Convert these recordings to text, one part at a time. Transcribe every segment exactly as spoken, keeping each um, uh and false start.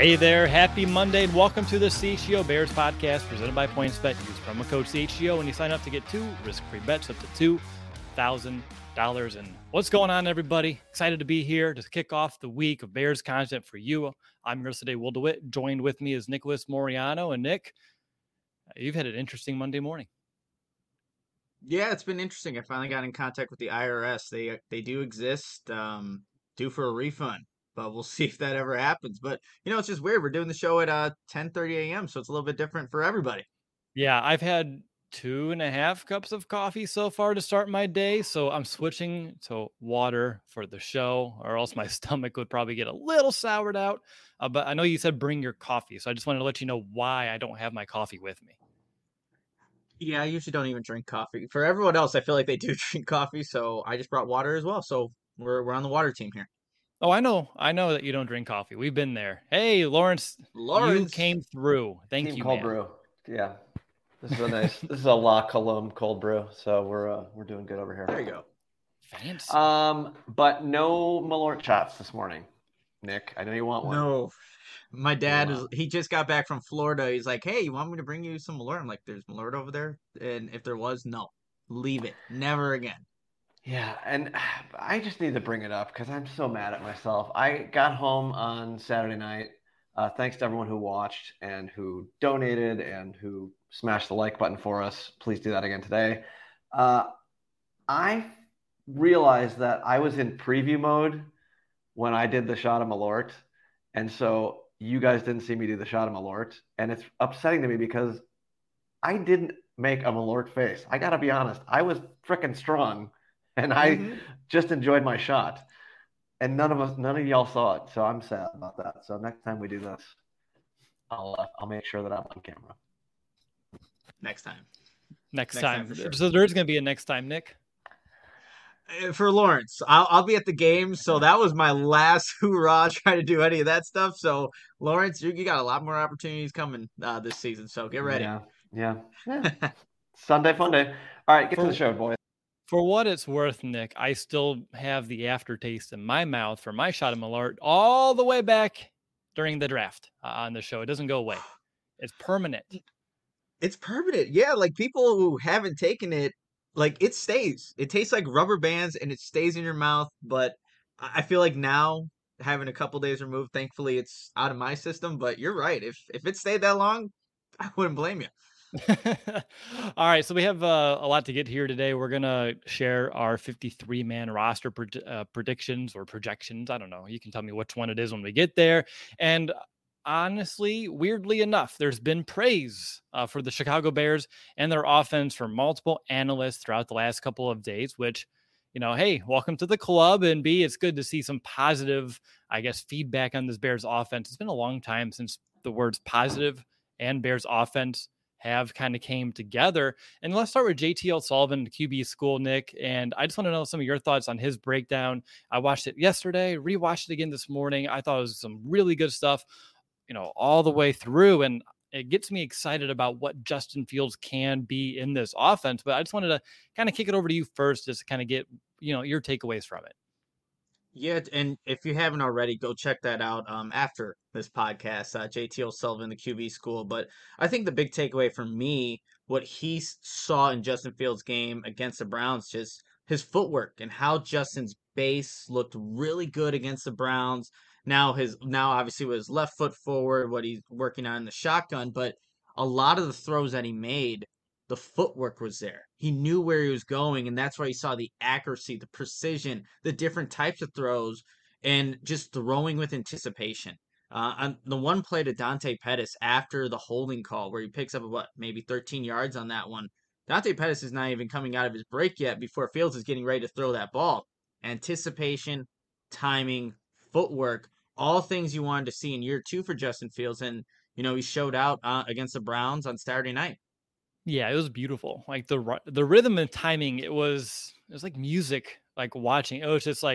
Hey there, happy Monday, and welcome to the C H G O Bears podcast presented by PointsBet. Use promo code C H G O when you sign up to get two risk-free bets up to two thousand dollars. And what's going on, everybody? Excited to be here to kick off the week of Bears content for you. I'm your host today, Will DeWitt. Joined with me is Nicholas Moriano. And Nick, you've had an interesting Monday morning. Yeah, it's been interesting. I finally got in contact with the I R S. They they do exist, um, due for a refund, but we'll see if that ever happens. But you know, it's just weird. We're doing the show at uh ten thirty a.m., so it's a little bit different for everybody. Yeah, I've had two and a half cups of coffee so far to start my day, so I'm switching to water for the show, or else my stomach would probably get a little soured out. Uh, but I know you said bring your coffee, so I just wanted to let you know why I don't have my coffee with me. Yeah, I usually don't even drink coffee. For everyone else, I feel like they do drink coffee, so I just brought water as well. So we're we're on the water team here. Oh, I know. I know that you don't drink coffee. We've been there. Hey, Lawrence, you Lawrence, came through. Thank Team you, cold man. brew. Yeah. This is a nice this is a La Colombe cold brew. So we're uh, we're doing good over here. there you go. Fancy. Um, but no Malort shots this morning. Nick, I know you want one. No, my dad is. Wow. He just got back from Florida. He's like, "Hey, you want me to bring you some Malort?" I'm like, "There's Malort over there," and if there was, no, leave it, never again. Yeah, and I just need to bring it up because I'm so mad at myself. I got home on Saturday night. Uh, thanks to everyone who watched and who donated and who smashed the like button for us. Please do that again today. Uh, I realized that I was in preview mode when I did the shot of Malort. And so you guys didn't see me do the shot of Malort. And it's upsetting to me because I didn't make a Malort face. I got to be honest. I was freaking strong and I hmm just enjoyed my shot. And none of us, none of y'all saw it. So I'm sad about that. So next time we do this, I'll, uh, I'll make sure that I'm on camera. Next time. Next, Next time. time for sure. So there's going to be a next time, Nick. Uh, For Lawrence, I'll I'll be at the game, so that was my last hoorah trying to do any of that stuff. So Lawrence, you, you got a lot more opportunities coming uh, this season, so get ready. Yeah. Yeah. yeah. Sunday fun day. All right, get For- to the show, boys. For what it's worth, Nick, I still have the aftertaste in my mouth for my shot of Malort all the way back during the draft uh, on the show. It doesn't go away. It's permanent. It's permanent. Yeah, like people who haven't taken it, like it stays. It tastes like rubber bands and it stays in your mouth. But I I feel like now having a couple days removed, thankfully it's out of my system. But you're right. If if it stayed that long, I wouldn't blame you. All right, so we have uh, a lot to get here today. We're gonna share our fifty-three man roster pred- uh, predictions or projections. I don't know. You can tell me which one it is when we get there. And honestly, weirdly enough, there's been praise uh, for the Chicago Bears and their offense from multiple analysts throughout the last couple of days. Which, you know, hey, welcome to the club. And B, it's good to see some positive, I guess, feedback on this Bears offense. It's been a long time since the words positive and Bears offense have kind of came together. And let's start with J T L Sullivan, the Q B school, Nick. And I just want to know some of your thoughts on his breakdown. I watched it yesterday, rewatched it again this morning. I thought it was some really good stuff, you know, all the way through. And it gets me excited about what Justin Fields can be in this offense. But I just wanted to kind of kick it over to you first, just to kind of get, you know, your takeaways from it. Yeah, and if you haven't already, go check that out um, after this podcast, uh, J T O'Sullivan, the Q B school. But I think the big takeaway for me, what he s- saw in Justin Fields' game against the Browns, just his footwork and how Justin's base looked really good against the Browns. Now his now obviously with his left foot forward, what he's working on in the shotgun, but a lot of the throws that he made, the footwork was there. He knew where he was going, and that's why you saw the accuracy, the precision, the different types of throws, and just throwing with anticipation. Uh, on the one play to Dante Pettis after the holding call, where he picks up what maybe thirteen yards on that one. Dante Pettis is not even coming out of his break yet before Fields is getting ready to throw that ball. Anticipation, timing, footwork, all things you wanted to see in year two for Justin Fields, and you know he showed out uh, against the Browns on Saturday night. Yeah, it was beautiful. Like the ry- the rhythm and timing, it was it was like music. Like watching, it was just like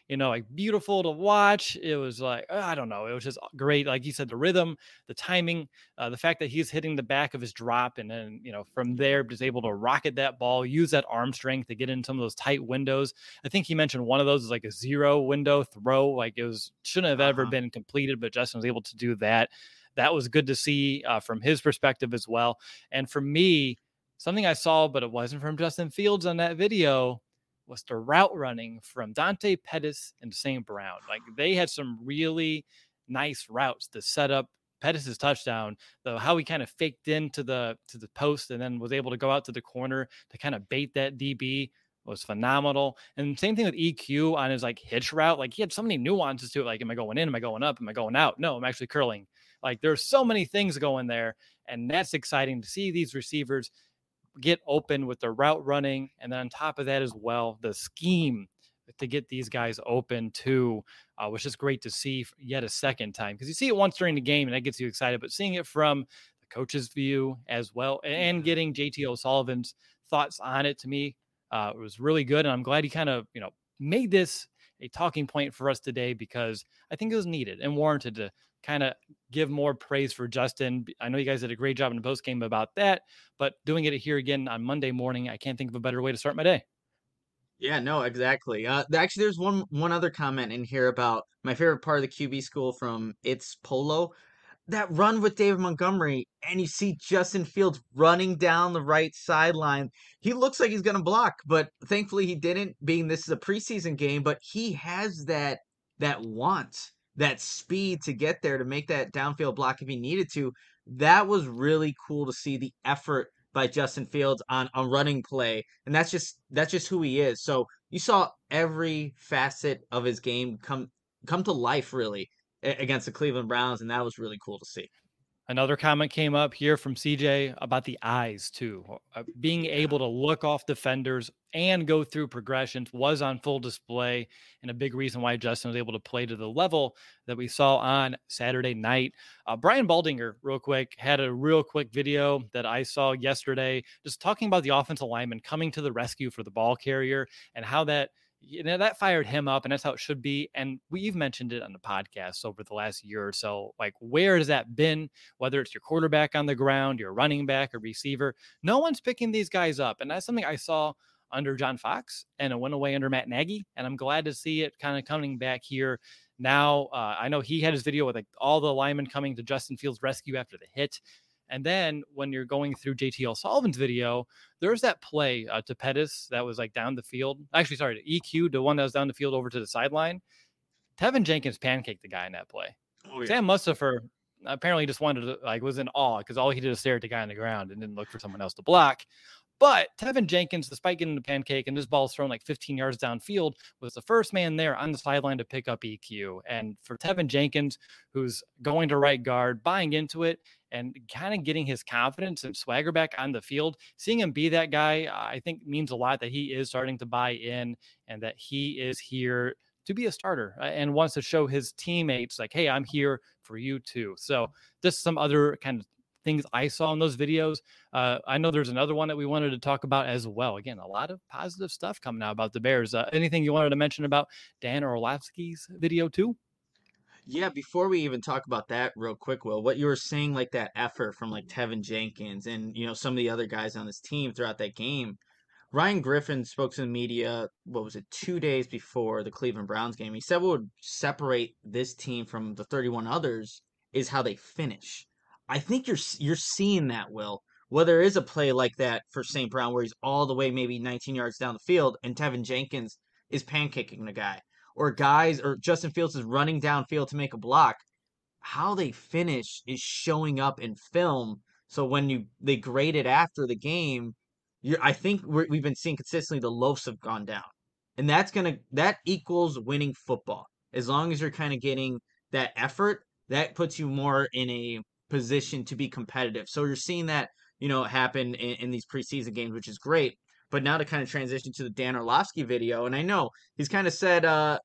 you know, like beautiful to watch. It was like, uh, I don't know, it was just great. Like you said, the rhythm, the timing, uh, the fact that he's hitting the back of his drop, and then, you know, from there, just able to rocket that ball, use that arm strength to get in some of those tight windows. I think he mentioned one of those is like a zero window throw. Like it was, shouldn't have ever Uh-huh. been completed, but Justin was able to do that. That was good to see uh, from his perspective as well. And for me, something I saw, but it wasn't from Justin Fields on that video, was the route running from Dante Pettis and Saint Brown. Like they had some really nice routes to set up Pettis' touchdown, though how he kind of faked into the to the post and then was able to go out to the corner to kind of bait that D B was phenomenal. And same thing with E Q on his like hitch route. Like he had so many nuances to it. Like, am I going in? Am I going up? Am I going out? No, I'm actually curling. Like there's so many things going there. And that's exciting to see these receivers get open with the route running. And then on top of that as well, the scheme to get these guys open too, uh, which is great to see yet a second time. Because you see it once during the game and that gets you excited, but seeing it from the coach's view as well and getting J T O'Sullivan's thoughts on it, to me, uh, it was really good. And I'm glad he kind of, you know, made this a talking point for us today, because I think it was needed and warranted to kind of give more praise for Justin. I know you guys did a great job in the post game about that, but doing it here again on Monday morning, I can't think of a better way to start my day. Yeah, no, exactly. Uh, th- actually, there's one one other comment in here about my favorite part of the Q B school from It's Polo. That run with David Montgomery, and you see Justin Fields running down the right sideline. He looks like he's going to block, but thankfully he didn't, being this is a preseason game, but he has that that want, that speed to get there to make that downfield block if he needed to. That was really cool to see the effort by Justin Fields on a running play, and that's just that's just who he is. So you saw every facet of his game come come to life really against the Cleveland Browns, and that was really cool to see. Another comment came up here from C J about the eyes too. Uh, being Yeah. able to look off defenders and go through progressions was on full display, and a big reason why Justin was able to play to the level that we saw on Saturday night. Uh, Brian Baldinger, real quick, had a real quick video that I saw yesterday, just talking about the offensive lineman coming to the rescue for the ball carrier and how that, you know, that fired him up, and that's how it should be. And we've mentioned it on the podcast over the last year or so. Like, where has that been? Whether it's your quarterback on the ground, your running back, or receiver, no one's picking these guys up. And that's something I saw under John Fox, and it went away under Matt Nagy. And I'm glad to see it kind of coming back here now. Uh, I know he had his video with like all the linemen coming to Justin Fields' rescue after the hit. And then when you're going through J T O'Sullivan's video, there's that play uh, to Pettis that was like down the field. Actually, sorry, to E Q, the one that was down the field over to the sideline. Tevin Jenkins pancaked the guy in that play. Oh, yeah. Sam Mustipher apparently just wanted to, like, was in awe because all he did was stare at the guy on the ground and didn't look for someone else to block. But Tevin Jenkins, despite getting the pancake and this ball's thrown like fifteen yards downfield, was the first man there on the sideline to pick up E Q. And for Tevin Jenkins, who's going to right guard, buying into it and kind of getting his confidence and swagger back on the field, seeing him be that guy, I think means a lot that he is starting to buy in and that he is here to be a starter and wants to show his teammates like, hey, I'm here for you too. So just some other kind of things I saw in those videos. Uh, I know there's another one that we wanted to talk about as well. Again, a lot of positive stuff coming out about the Bears. Uh, anything you wanted to mention about Dan Orlovsky's video too? Yeah, before we even talk about that real quick, Will, what you were saying, like that effort from like Tevin Jenkins and you know some of the other guys on this team throughout that game. Ryan Griffin spoke to the media, what was it, two days before the Cleveland Browns game. He said what would separate this team from the thirty-one others is how they finish. I think you're you're seeing that, Will. Whether there is a play like that for Saint Brown where he's all the way maybe nineteen yards down the field and Tevin Jenkins is pancaking the guy, or guys, or Justin Fields is running downfield to make a block, how they finish is showing up in film. So when you they grade it after the game, you're, I think we're, we've been seeing consistently the loafs have gone down, and that's gonna that equals winning football. As long as you're kind of getting that effort, that puts you more in a position to be competitive. So you're seeing that you know happen in, in these preseason games, which is great. But now to kind of transition to the Dan Orlovsky video, and I know he's kind of said, uh,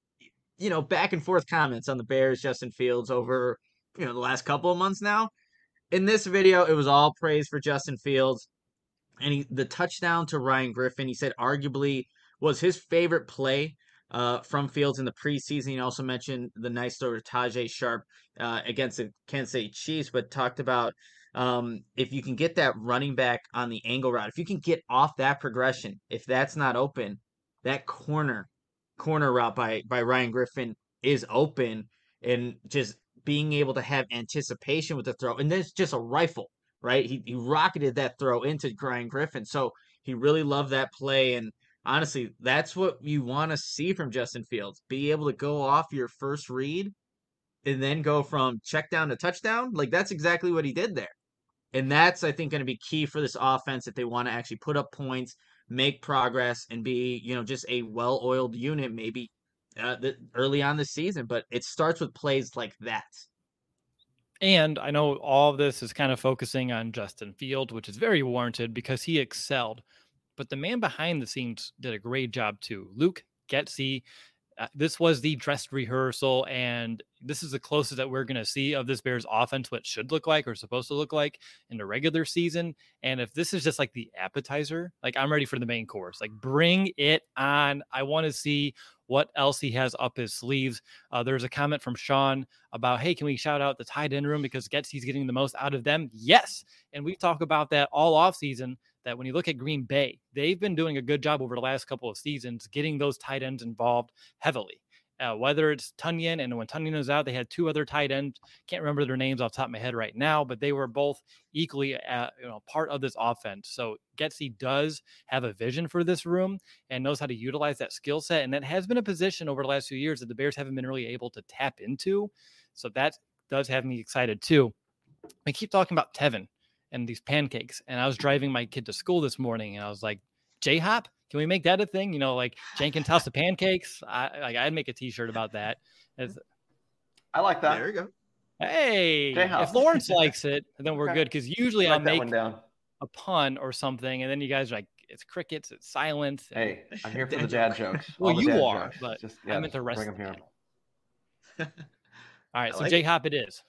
you know, back and forth comments on the Bears, Justin Fields over, you know, the last couple of months now. In this video, it was all praise for Justin Fields. And he, the touchdown to Ryan Griffin, he said arguably was his favorite play uh, from Fields in the preseason. You also mentioned the nice throw to Tajay Sharp uh, against the Kansas City Chiefs, but talked about um, if you can get that running back on the angle route, if you can get off that progression, if that's not open, that corner corner route by by Ryan Griffin is open, and just being able to have anticipation with the throw, and then it's just a rifle, right? He he rocketed that throw into Ryan Griffin, so he really loved that play. And honestly, that's what you want to see from Justin Fields. Be able to go off your first read and then go from check down to touchdown. Like that's exactly what he did there. And that's, I think, going to be key for this offense if they want to actually put up points, make progress, and be, you know, just a well-oiled unit maybe uh, the, early on this season. But it starts with plays like that. And I know all of this is kind of focusing on Justin Fields, which is very warranted because he excelled. But the man behind the scenes did a great job too. Luke Getsy. Uh, this was the dress rehearsal, and this is the closest that we're going to see of this Bears offense, what it should look like or supposed to look like in the regular season. And if this is just like the appetizer, like I'm ready for the main course. Like bring it on. I want to see what else he has up his sleeves. Uh, there's a comment from Sean about, hey, can we shout out the tight end room because Getsy's getting the most out of them? Yes. And we talk about that all off season, that when you look at Green Bay, they've been doing a good job over the last couple of seasons getting those tight ends involved heavily. Uh, whether it's Tunyon, and when Tunyon was out, they had two other tight ends. Can't remember their names off the top of my head right now, but they were both equally uh, you know, part of this offense. So Getsy does have a vision for this room and knows how to utilize that skill set. And that has been a position over the last few years that the Bears haven't been really able to tap into. So that does have me excited too. We keep talking about Tevin and these pancakes. And I was driving my kid to school this morning and I was like, J-Hop, can we make that a thing? You know, like Jenkins House of Pancakes. I like I'd make a t-shirt about that. As, I like that. There you go. Hey, J-Hop. if Lawrence likes it, then we're Okay. good. Because usually Write I'll that make one down. a pun or something, and then you guys are like, it's crickets, it's silence. And, Hey, I'm here for the Dad dad jokes. well, All the you dad are, jokes. but just, I yeah, meant the just rest bring of them the here. panel. All right, I so like J-Hop it is.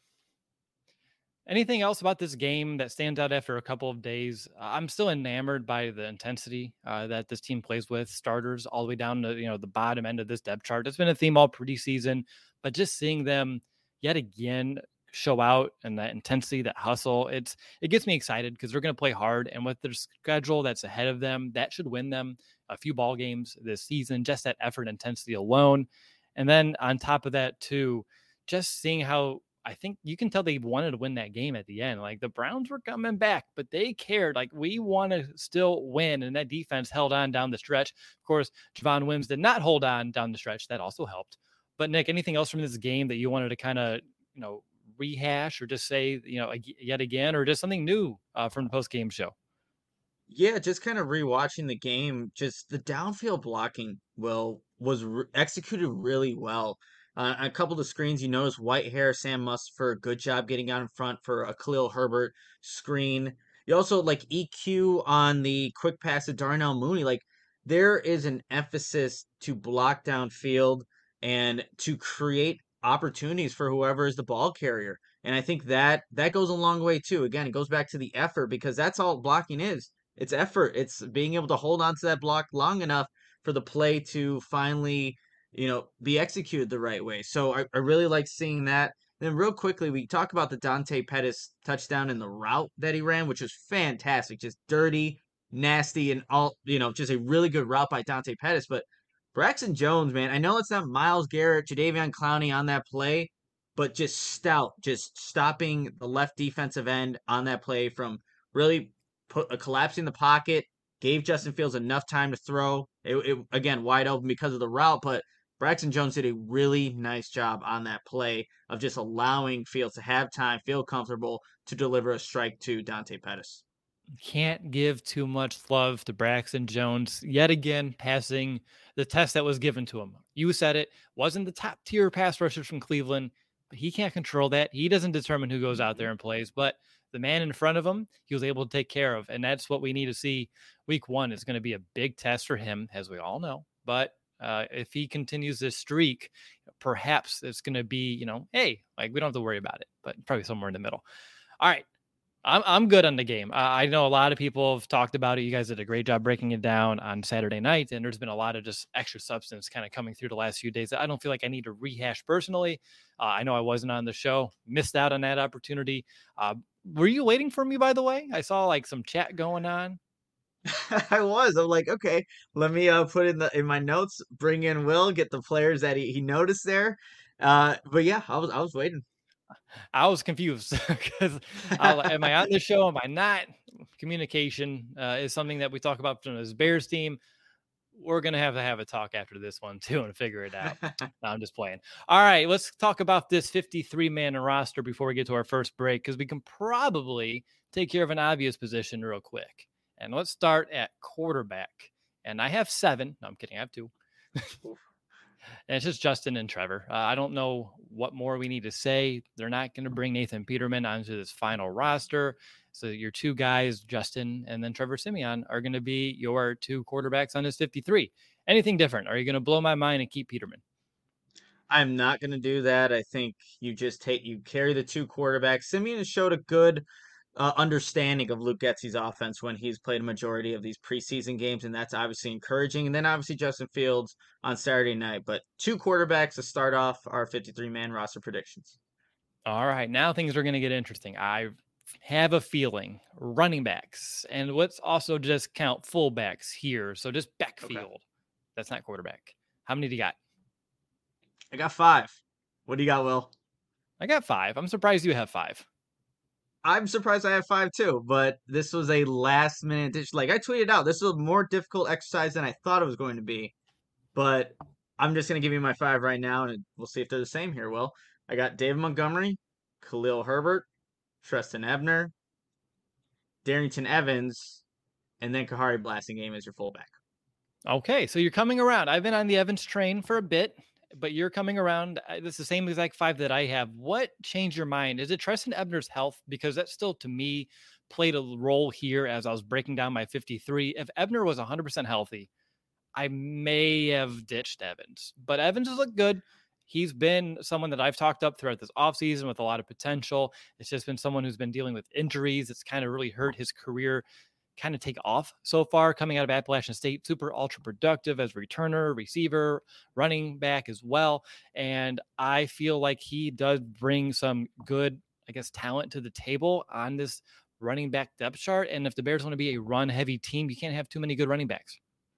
Anything else about this game that stands out after a couple of days? I'm still enamored by the intensity uh, that this team plays with, starters all the way down to, you know, the bottom end of this depth chart. It's been a theme all preseason, but just seeing them yet again show out and that intensity, that hustle, it's it gets me excited because they're going to play hard, and with their schedule that's ahead of them, that should win them a few ball games this season. Just that effort, intensity alone, and then on top of that too, just seeing how. I think you can tell they wanted to win that game at the end. Like the Browns were coming back, but they cared. Like we want to still win. And that defense held on down the stretch. Of course, Javon Wims did not hold on down the stretch. That also helped. But Nick, anything else from this game that you wanted to kind of, you know, rehash or just say, you know, yet again, or just something new uh, from the post game show? Yeah, just kind of rewatching the game, just the downfield blocking will was re- executed really well. Uh, on a couple of the screens, you notice Whitehair, Sam Mustipher, good job getting out in front for a Khalil Herbert screen. You also like E Q on the quick pass to Darnell Mooney. Like there is an emphasis to block downfield and to create opportunities for whoever is the ball carrier. And I think that that goes a long way too. Again, it goes back to the effort because that's all blocking is. It's effort. It's being able to hold on to that block long enough for the play to finally, you know, be executed the right way. So I, I really like seeing that. Then real quickly, we talk about the Dante Pettis touchdown and the route that he ran, which was fantastic. Just dirty, nasty, and all, you know, just a really good route by Dante Pettis. But Braxton Jones, man, I know it's not Myles Garrett, Jadeveon Clowney on that play, but just stout, just stopping the left defensive end on that play from really put a collapsing the pocket, gave Justin Fields enough time to throw. It, it again wide open because of the route, but Braxton Jones did a really nice job on that play of just allowing Fields to have time, feel comfortable to deliver a strike to Dante Pettis. Can't give too much love to Braxton Jones yet again, passing the test that was given to him. You said it wasn't the top tier pass rushers from Cleveland, but he can't control that. He doesn't determine who goes out there and plays, but the man in front of him, he was able to take care of. And that's what we need to see. Week one is going to be a big test for him, as we all know. But uh, if he continues this streak, perhaps it's going to be, you know, hey, like we don't have to worry about it, but probably somewhere in the middle. All right. I'm I'm good on the game. Uh, I know a lot of people have talked about it. You guys did a great job breaking it down on Saturday night, and there's been a lot of just extra substance kind of coming through the last few days that I don't feel like I need to rehash personally. Uh, I know I wasn't on the show, missed out on that opportunity. Uh, were you waiting for me, by the way? I saw like some chat going on. I was. I'm like, okay, let me uh put in the in my notes, bring in Will, get the players that he, he noticed there. Uh, but yeah, I was I was waiting. I was confused because am I on the show? Am I not? Communication uh, is something that we talk about from this Bears team. We're going to have to have a talk after this one too and figure it out. No, I'm just playing. All right, let's talk about this fifty-three man roster before we get to our first break, because we can probably take care of an obvious position real quick. And let's start at quarterback. And I have seven. No, I'm kidding. I have two. And it's just Justin and Trevor. Uh, I don't know what more we need to say. They're not going to bring Nathan Peterman onto this final roster. So your two guys, Justin and then Trevor Siemian, are going to be your two quarterbacks on this fifty-three. Anything different? Are you going to blow my mind and keep Peterman? I'm not going to do that. I think you just take you carry the two quarterbacks. Simeon has showed a good uh, understanding of Luke Getsy's offense when he's played a majority of these preseason games, and that's obviously encouraging. And then obviously Justin Fields on Saturday night. But two quarterbacks to start off our fifty-three man roster predictions. All right, now things are going to get interesting. I have a feeling running backs, and let's also just count fullbacks here. So just backfield. Okay. That's not quarterback. How many do you got? I got five. What do you got, Will? I got five. I'm surprised you have five. I'm surprised I have five too, but this was a last minute dish. Like I tweeted out, this was a more difficult exercise than I thought it was going to be. But I'm just going to give you my five right now, and we'll see if they're the same here, Will. I got David Montgomery, Khalil Herbert, Trestan Ebner, Darrington Evans, and then Kahari Blasingame as your fullback. Okay, so you're coming around. I've been on the Evans train for a bit, but you're coming around. It's the same exact five that I have. What changed your mind? Is it Trestan Ebner's health? Because that still, to me, played a role here as I was breaking down my fifty-three. If Ebner was one hundred percent healthy, I may have ditched Evans. But Evans has looked good. He's been someone that I've talked up throughout this offseason with a lot of potential. It's just been someone who's been dealing with injuries. It's kind of really hurt his career kind of take off so far coming out of Appalachian State. Super ultra productive as returner, receiver, running back as well. And I feel like he does bring some good, I guess, talent to the table on this running back depth chart. And if the Bears want to be a run heavy team, you can't have too many good running backs.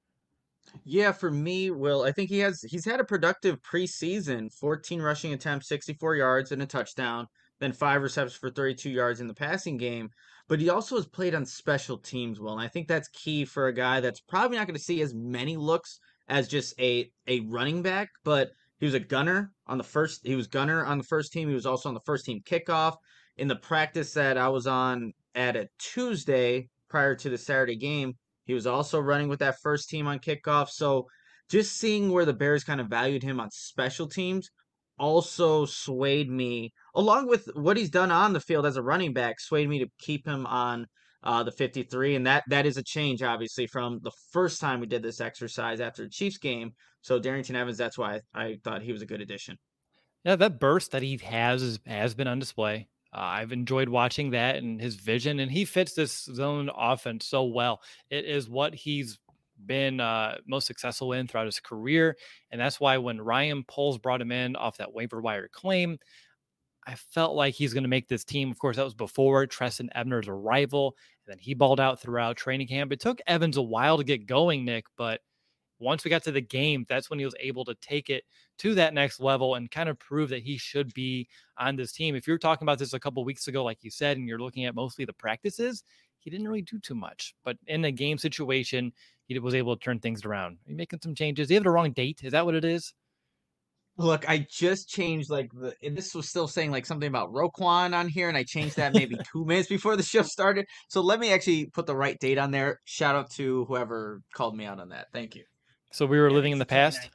Yeah, for me, Will, I think he has he's had a productive preseason. fourteen rushing attempts, sixty-four yards and a touchdown, then five receptions for thirty-two yards in the passing game. But he also has played on special teams, Will, and I think that's key for a guy that's probably not going to see as many looks as just a a running back, but he was a gunner on the first he was gunner on the first team. He was also on the first team kickoff. In the practice that I was on at a Tuesday prior to the Saturday game, he was also running with that first team on kickoff. So just seeing where the Bears kind of valued him on special teams also swayed me, along with what he's done on the field as a running back, swayed me to keep him on uh, the fifty-three. And that that is a change, obviously, from the first time we did this exercise after the Chiefs game. So Darrington Evans, that's why I, I thought he was a good addition. Yeah, that burst that he has has been on display. Uh, I've enjoyed watching that and his vision, and he fits this zone offense so well. It is what he's been uh, most successful in throughout his career, and that's why when Ryan Poles brought him in off that waiver wire claim, I felt like he's going to make this team. Of course, that was before Trestan Ebner's arrival, and then he balled out throughout training camp. It took Evans a while to get going, Nick, but once we got to the game, that's when he was able to take it to that next level and kind of prove that he should be on this team. If you were talking about this a couple of weeks ago, like you said, and you're looking at mostly the practices, he didn't really do too much. But in a game situation, he was able to turn things around. Are you making some changes? Do you have the wrong date? Is that what it is? Look, I just changed like the and this was still saying like something about Roquan on here, and I changed that maybe two minutes before the show started. So let me actually put the right date on there. Shout out to whoever called me out on that. Thank you. So we were yeah, living in the past?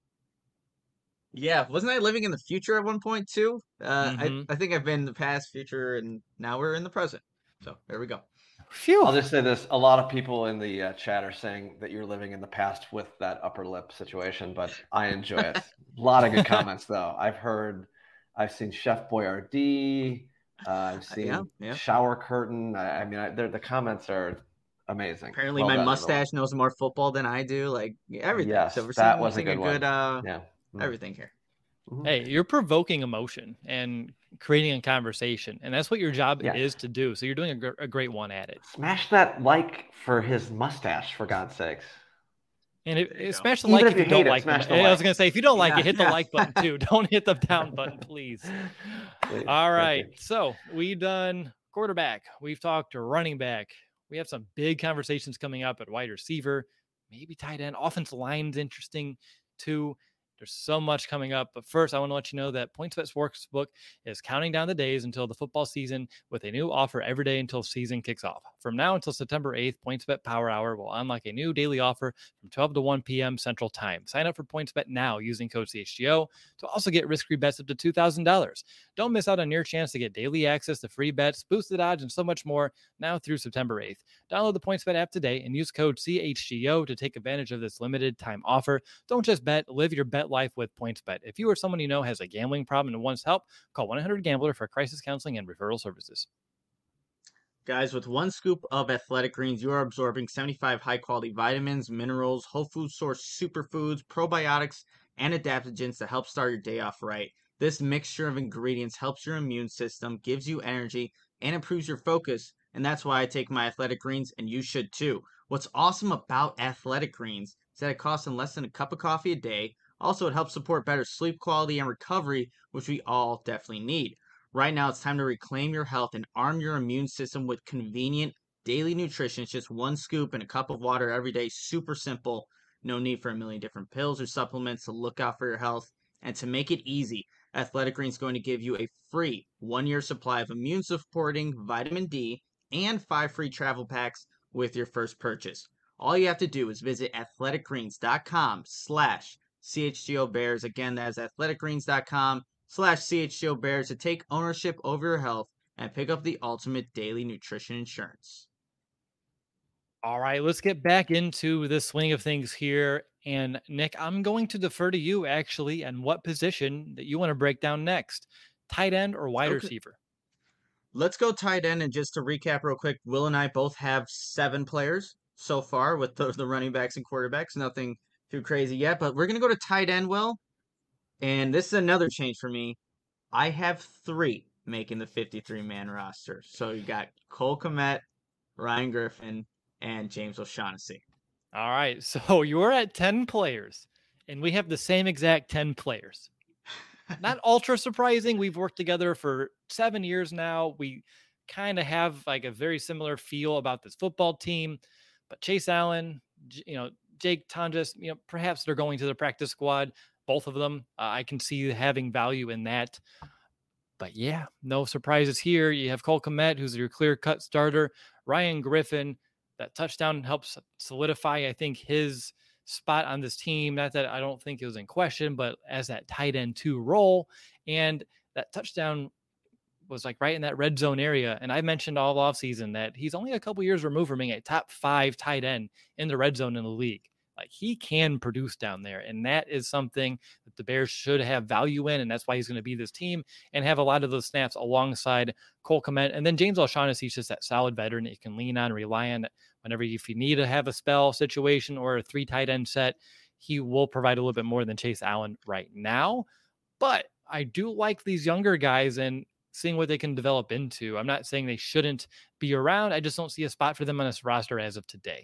Yeah. Wasn't I living in the future at one point too? Uh, mm-hmm. I, I think I've been in the past, future, and now we're in the present. So there we go. Phew. I'll just say this. A lot of people in the uh, chat are saying that you're living in the past with that upper lip situation, but I enjoy it. A lot of good comments, though. I've heard, I've seen Chef Boyardee. Uh, I've seen yeah, yeah. shower curtain. I, I mean, I, the comments are amazing. Apparently, Well my done, everyone. mustache knows more football than I do. Like everything. So Yes, we're that seeing was a seeing a good good one. uh Yeah. Mm. everything here. Mhm. Hey, you're provoking emotion and creating a conversation, and that's what your job Yeah. is to do. So you're doing a, gr- a great one at it. Smash that like for his mustache, for God's sakes. And it, There you go. smash the Even like if if you you don't hate it, like them. smash the I was like. gonna say if you don't like Yeah, it, hit the yeah. like button too. Don't hit the down button, please. Please, All thank right. you. So we've done quarterback. We've talked to running back. We have some big conversations coming up at wide receiver, maybe tight end. Offensive line's interesting too. There's so much coming up. But first, I want to let you know that PointsBet Sportsbook is counting down the days until the football season with a new offer every day until season kicks off. From now until September eighth, PointsBet Power Hour will unlock a new daily offer from twelve to one p.m. Central Time. Sign up for PointsBet now using code C H G O to also get risk-free bets up to two thousand dollars. Don't miss out on your chance to get daily access to free bets, boosted odds, and so much more now through September eighth. Download the PointsBet app today and use code C H G O to take advantage of this limited time offer. Don't just bet, live your bet life with PointsBet. If you or someone you know has a gambling problem and wants help, call one eight hundred gambler for crisis counseling and referral services. Guys, with one scoop of Athletic Greens, you are absorbing seventy-five high-quality vitamins, minerals, whole food source superfoods, probiotics, and adaptogens to help start your day off right. This mixture of ingredients helps your immune system, gives you energy, and improves your focus. And that's why I take my Athletic Greens, and you should too. What's awesome about Athletic Greens is that it costs in less than a cup of coffee a day. Also, it helps support better sleep quality and recovery, which we all definitely need. Right now, it's time to reclaim your health and arm your immune system with convenient daily nutrition. It's just one scoop and a cup of water every day. Super simple. No need for a million different pills or supplements to look out for your health. And to make it easy, Athletic Greens is going to give you a free one year supply of immune supporting vitamin D and five free travel packs with your first purchase. All you have to do is visit athleticgreens.com slash CHGO Bears. Again, that's athleticgreens.com slash CHGO Bears to take ownership over your health and pick up the ultimate daily nutrition insurance. All right, let's get back into the swing of things here. And Nick, I'm going to defer to you actually and what position that you want to break down next, tight end or wide Okay. receiver? Let's go tight end. And just to recap real quick, Will and I both have seven players so far with the, the running backs and quarterbacks. Nothing too crazy yet, but we're going to go to tight end, Will. And this is another change for me. I have three making the fifty-three man roster. So you got Cole Kmet, Ryan Griffin, and James O'Shaughnessy. All right, so you're at ten players, and we have the same exact ten players. Not ultra surprising. We've worked together for seven years now. We kind of have like a very similar feel about this football team. But Chase Allen, you know, Jake Tonjes, you know, perhaps they're going to the practice squad. Both of them, uh, I can see having value in that. But yeah, no surprises here. You have Cole Kmet, who's your clear-cut starter. Ryan Griffin, that touchdown helps solidify, I think, his spot on this team. Not that I don't think it was in question, but as that tight end two role. And that touchdown was like right in that red zone area. And I mentioned all offseason that he's only a couple years removed from being a top five tight end in the red zone in the league. Like he can produce down there. And that is something that the Bears should have value in. And that's why he's going to be this team and have a lot of those snaps alongside Cole Kmet. And then James O'Shaughnessy is just that solid veteran that you can lean on, rely on whenever, if you need to have a spell situation or a three tight end set, he will provide a little bit more than Chase Allen right now. But I do like these younger guys and seeing what they can develop into. I'm not saying they shouldn't be around. I just don't see a spot for them on this roster as of today.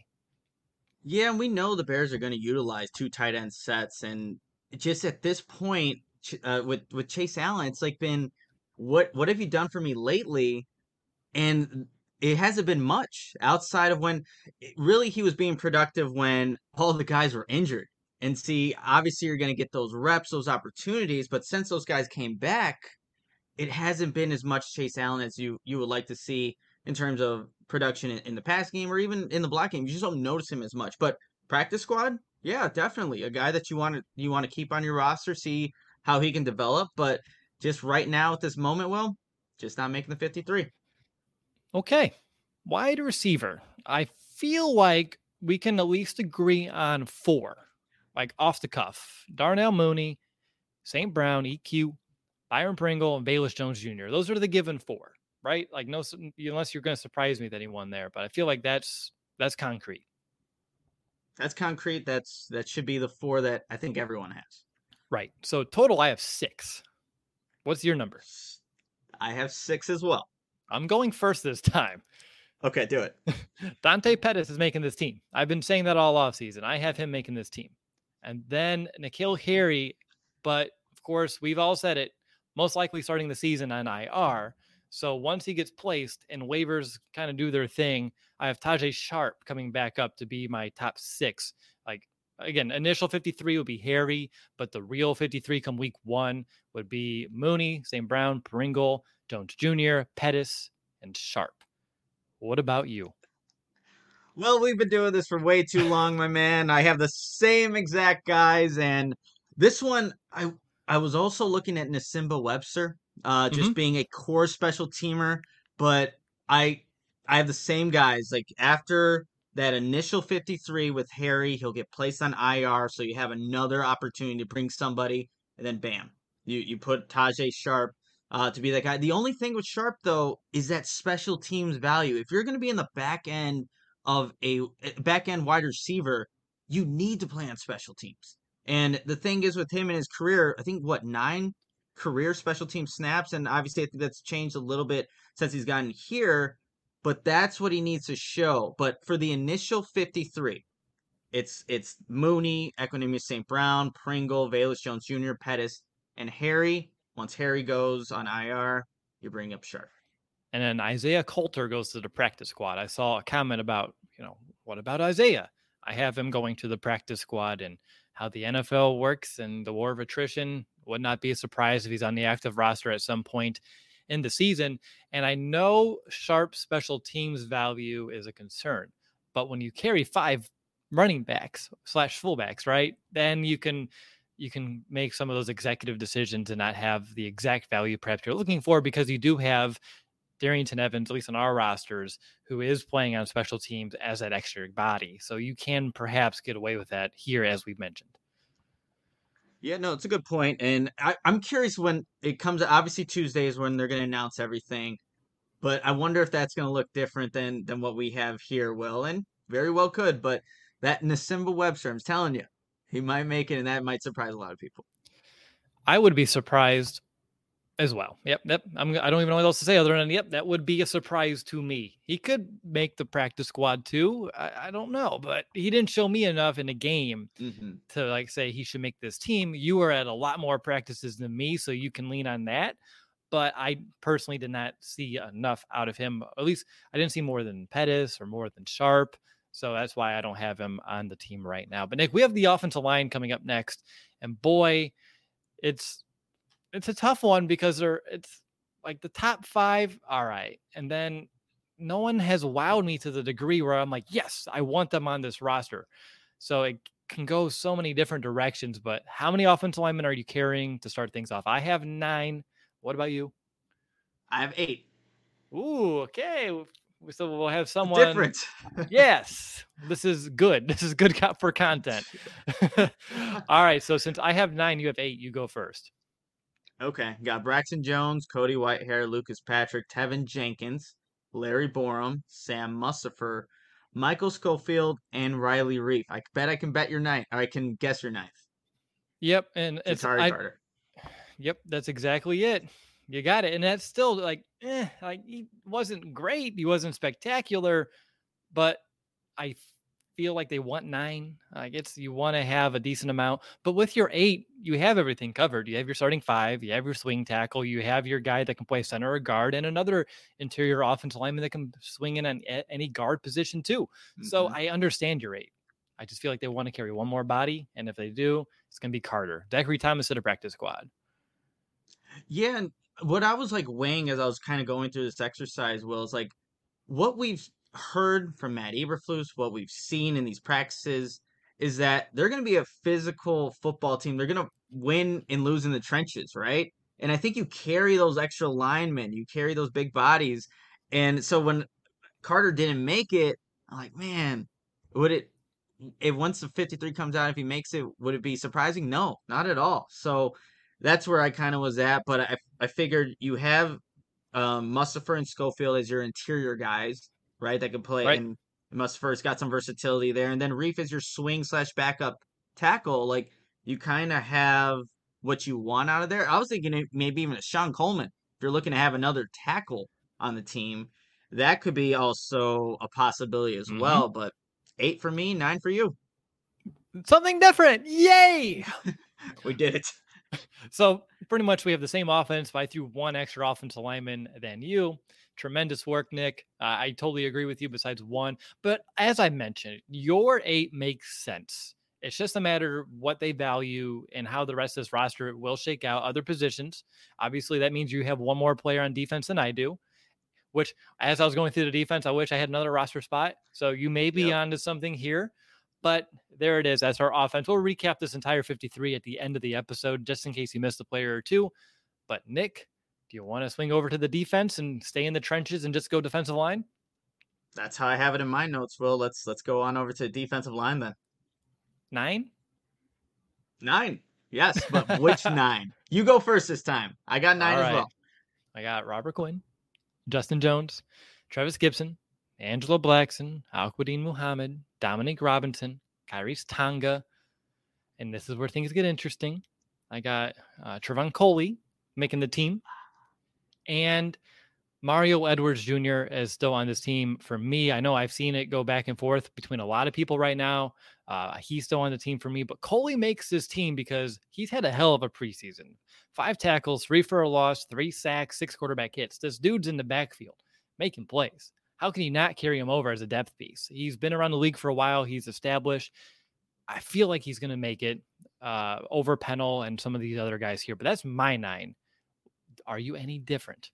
Yeah, and we know the Bears are going to utilize two tight end sets, and just at this point, uh, with with Chase Allen, it's like been what what have you done for me lately? And it hasn't been much outside of when really he was being productive when all the guys were injured. And see, obviously you're going to get those reps, those opportunities, but since those guys came back, it hasn't been as much Chase Allen as you you would like to see in terms of production in, in the pass game or even in the block game. You just don't notice him as much. But practice squad, yeah, definitely a guy that you want to you want to keep on your roster, see how he can develop. But just right now at this moment, well, just not making the fifty-three. Okay, wide receiver. I feel like we can at least agree on four, like off the cuff. Darnell Mooney, Saint Brown, E Q, Byron Pringle, and Bayless Jones Junior Those are the given four. right? Like no, unless you're going to surprise me with anyone there, but I feel like that's that's concrete. That's concrete. That's that should be the four that I think everyone has. Right. So total, I have six. What's your number? I have six as well. I'm going first this time. Okay, do it. Dante Pettis is making this team. I've been saying that all offseason. I have him making this team. And then N'Keal Harry, but of course, we've all said it, most likely starting the season on I R. So once he gets placed and waivers kind of do their thing, I have Tajae Sharpe coming back up to be my top six. Like, again, initial fifty-three would be Harry, but the real fifty-three come week one would be Mooney, Saint Brown, Pringle, Jones Junior, Pettis, and Sharpe. What about you? Well, we've been doing this for way too long, my man. I have the same exact guys, and this one, I I was also looking at Nsimba Webster, uh, just Mhm. being a core special teamer, but I I have the same guys. Like after that initial fifty-three with Harry, he'll get placed on I R, so you have another opportunity to bring somebody, and then bam, you you put Tajae Sharpe uh, to be that guy. The only thing with Sharpe though is that special teams value. If you're going to be in the back end of a back end wide receiver, you need to play on special teams. And the thing is with him in his career, I think what nine career special team snaps, and obviously I think that's changed a little bit since he's gotten here, but that's what he needs to show. But for the initial fifty-three, it's it's Mooney, Equanimeous Saint Brown, Pringle, Velus Jones Junior, Pettis, and Harry. Once Harry goes on I R, you bring up Sharpe. And then Isaiah Coulter goes to the practice squad. I saw a comment about, you know, what about Isaiah? I have him going to the practice squad, and how the N F L works and the war of attrition. Would not be a surprise if he's on the active roster at some point in the season. And I know Sharpe special teams value is a concern, but when you carry five running backs slash fullbacks, right, then you can you can make some of those executive decisions and not have the exact value perhaps you're looking for, because you do have Darrington Evans, at least on our rosters, who is playing on special teams as that extra body. So you can perhaps get away with that here, as we've mentioned. Yeah, no, it's a good point. And I, I'm curious when it comes, obviously Tuesday is when they're going to announce everything, but I wonder if that's going to look different than than what we have here, Will, and very well could. But that Nsimba Webster, I'm telling you, he might make it, and that might surprise a lot of people. I would be surprised as well. Yep, yep. I'm, I don't even know what else to say other than, yep, that would be a surprise to me. He could make the practice squad too. I, I don't know, but he didn't show me enough in a game Mm-hmm. to like say he should make this team. You were at a lot more practices than me, so you can lean on that. But I personally did not see enough out of him. At least I didn't see more than Pettis or more than Sharpe. So that's why I don't have him on the team right now. But Nick, we have the offensive line coming up next. And boy, it's it's a tough one because they're it's like the top five, all right. And then no one has wowed me to the degree where I'm like, yes, I want them on this roster. So it can go so many different directions. But how many offensive linemen are you carrying to start things off? I have nine. What about you? I have eight. Ooh, okay. So we'll have someone different. Yes, this is good. This is good for content. All right. So since I have nine, you have eight. You go first. Okay. Got Braxton Jones, Cody Whitehair, Lucas Patrick, Tevin Jenkins, Larry Borum, Sam Mustipher, Michael Schofield, and Riley Reef. I bet I can bet your ninth. Or I can guess your ninth. Yep, and it's Ja'Tyre I, Carter. Yep, that's exactly it. You got it. And that's still like, eh, like he wasn't great. He wasn't spectacular, but I feel like they want nine. I guess you want to have a decent amount, but with your eight, you have everything covered. You have your starting five, you have your swing tackle, you have your guy that can play center or guard, and another interior offensive lineman that can swing in on any guard position too. Mm-hmm. So I understand your eight. I just feel like they want to carry one more body, and if they do, it's going to be Carter. Zachary Thomas at a practice squad. Yeah, and what I was like weighing as I was kind of going through this exercise, Will, is like what we've heard from Matt Eberflus, what we've seen in these practices, is that they're going to be a physical football team. They're going to win and lose in the trenches, right? And I think you carry those extra linemen, you carry those big bodies. And so when Carter didn't make it, I'm like, man, would it, if once the fifty-three comes out, if he makes it, would it be surprising? No, not at all. So that's where I kind of was at. But I, I figured you have um, Mustipher and Schofield as your interior guys, right? That can play, Right. and Mustipher's got some versatility there, and then Reef is your swing slash backup tackle. Like you kind of have what you want out of there. I was thinking it- maybe even a Sean Coleman. If you're looking to have another tackle on the team, that could be also a possibility as Mm-hmm. well. But eight for me, nine for you. Something different. Yay. We did it. So pretty much we have the same offense, but I threw one extra offensive lineman than you. Tremendous work, Nick. Uh, I totally agree with you besides one. But as I mentioned, your eight makes sense. It's just a matter of what they value and how the rest of this roster will shake out. Other positions, obviously, that means you have one more player on defense than I do, which as I was going through the defense, I wish I had another roster spot. So you may be Yep. onto something here. But there it is. That's our offense. We'll recap this entire fifty-three at the end of the episode, just in case you missed a player or two. But Nick, do you want to swing over to the defense and stay in the trenches and just go defensive line? That's how I have it in my notes, Will. Let's let's go on over to defensive line then. Nine? Nine. Yes, but which nine? You go first this time. I got nine All as right. well. I got Robert Quinn, Justin Jones, Travis Gibson, Angelo Blackson, Alquadine Muhammad, Dominic Robinson, Kyrese Tonga, and this is where things get interesting. I got uh, Trevon Coley making the team, and Mario Edwards Junior is still on this team for me. I know I've seen it go back and forth between a lot of people right now. Uh, he's still on the team for me, but Coley makes this team because he's had a hell of a preseason. Five tackles, three for a loss, three sacks, six quarterback hits. This dude's in the backfield making plays. How can you not carry him over as a depth piece? He's been around the league for a while. He's established. I feel like he's going to make it uh, over Pennell and some of these other guys here, but that's my nine. Are you any different?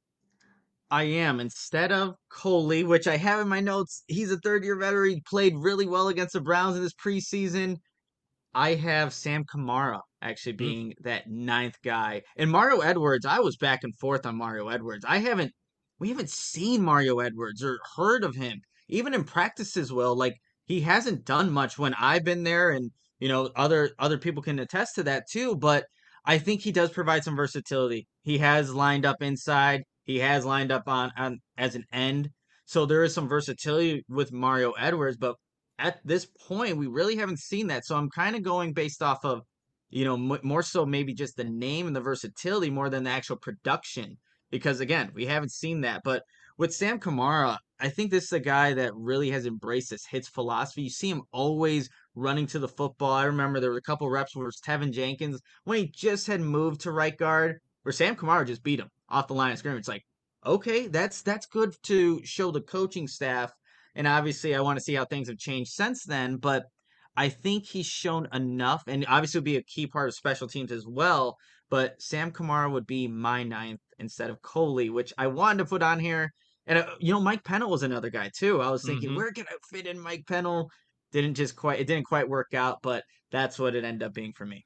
I am. Instead of Coley, which I have in my notes, he's a third year veteran. He played really well against the Browns in this preseason. I have Sam Kamara actually Mm. being that ninth guy. And Mario Edwards, I was back and forth on Mario Edwards. I haven't, we haven't seen Mario Edwards or heard of him, even in practices. Well, like he hasn't done much when I've been there, and you know other other people can attest to that too. But I think he does provide some versatility. He has lined up inside. He has lined up on on as an end. So there is some versatility with Mario Edwards, but at this point, we really haven't seen that. So I'm kind of going based off of, you know, m- more so maybe just the name and the versatility more than the actual production. Because again, we haven't seen that. But with Sam Kamara, I think this is a guy that really has embraced this hits philosophy. You see him always running to the football. I remember there were a couple reps where it was Tevin Jenkins when he just had moved to right guard, where Sam Kamara just beat him off the line of scrimmage. It's like, okay, that's that's good to show the coaching staff, and obviously, I want to see how things have changed since then. But I think he's shown enough, and obviously, would be a key part of special teams as well. But Sam Kamara would be my ninth instead of Coley, which I wanted to put on here. And uh, you know, Mike Pennell was another guy too. I was thinking, Mm-hmm. where can I fit in Mike Pennell? Didn't just quite, it didn't quite work out, but that's what it ended up being for me.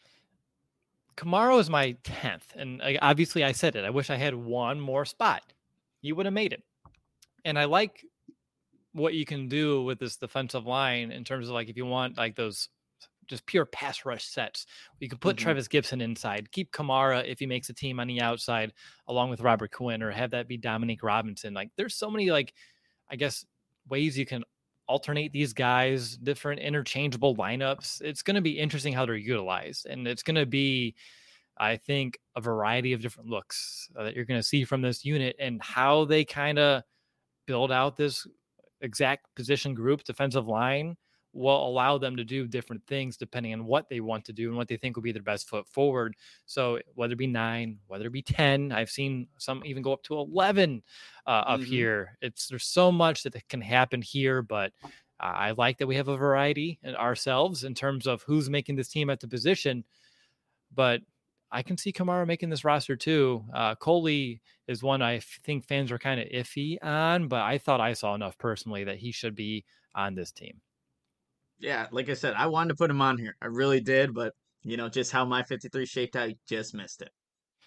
Kamara is my tenth. And I, obviously, I said it. I wish I had one more spot. You would have made it. And I like what you can do with this defensive line in terms of like if you want like those just pure pass rush sets. You could put Mhm. Travis Gibson inside, keep Kamara if he makes a team on the outside along with Robert Quinn, or have that be Dominic Robinson. Like there's so many like, I guess, ways you can alternate these guys, different interchangeable lineups. It's going to be interesting how they're utilized. And it's going to be, I think, a variety of different looks uh, that you're going to see from this unit and how they kind of build out this exact position group, defensive line, will allow them to do different things depending on what they want to do and what they think will be their best foot forward. So whether it be nine, whether it be ten, I've seen some even go up to eleven uh, up Mhm. here. It's there's so much that can happen here, but uh, I like that we have a variety in ourselves in terms of who's making this team at the position. But I can see Kamara making this roster too. Uh, Coley is one I f- think fans are kind of iffy on, but I thought I saw enough personally that he should be on this team. Yeah, like I said, I wanted to put him on here. I really did, but you know, just how my fifty-three shaped out, you just missed it.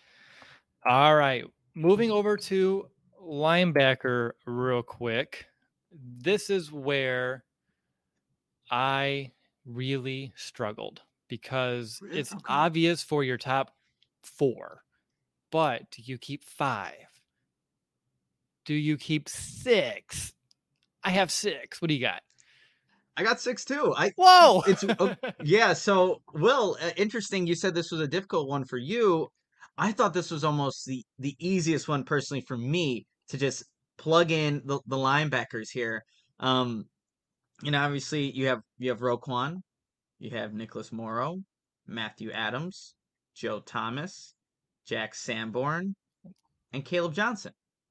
All right. Moving over to linebacker real quick. This is where I really struggled because Really? it's Okay. obvious for your top four, but you keep five. do you keep six? I have six. What do you got? I got six too. I Whoa. It's uh, yeah. So, Will, uh, interesting. You said this was a difficult one for you. I thought this was almost the the easiest one personally for me to just plug in the, the linebackers here. Um, you know, obviously you have you have Roquan, you have Nicholas Morrow, Matthew Adams, Joe Thomas, Jack Sanborn, and Caleb Johnson.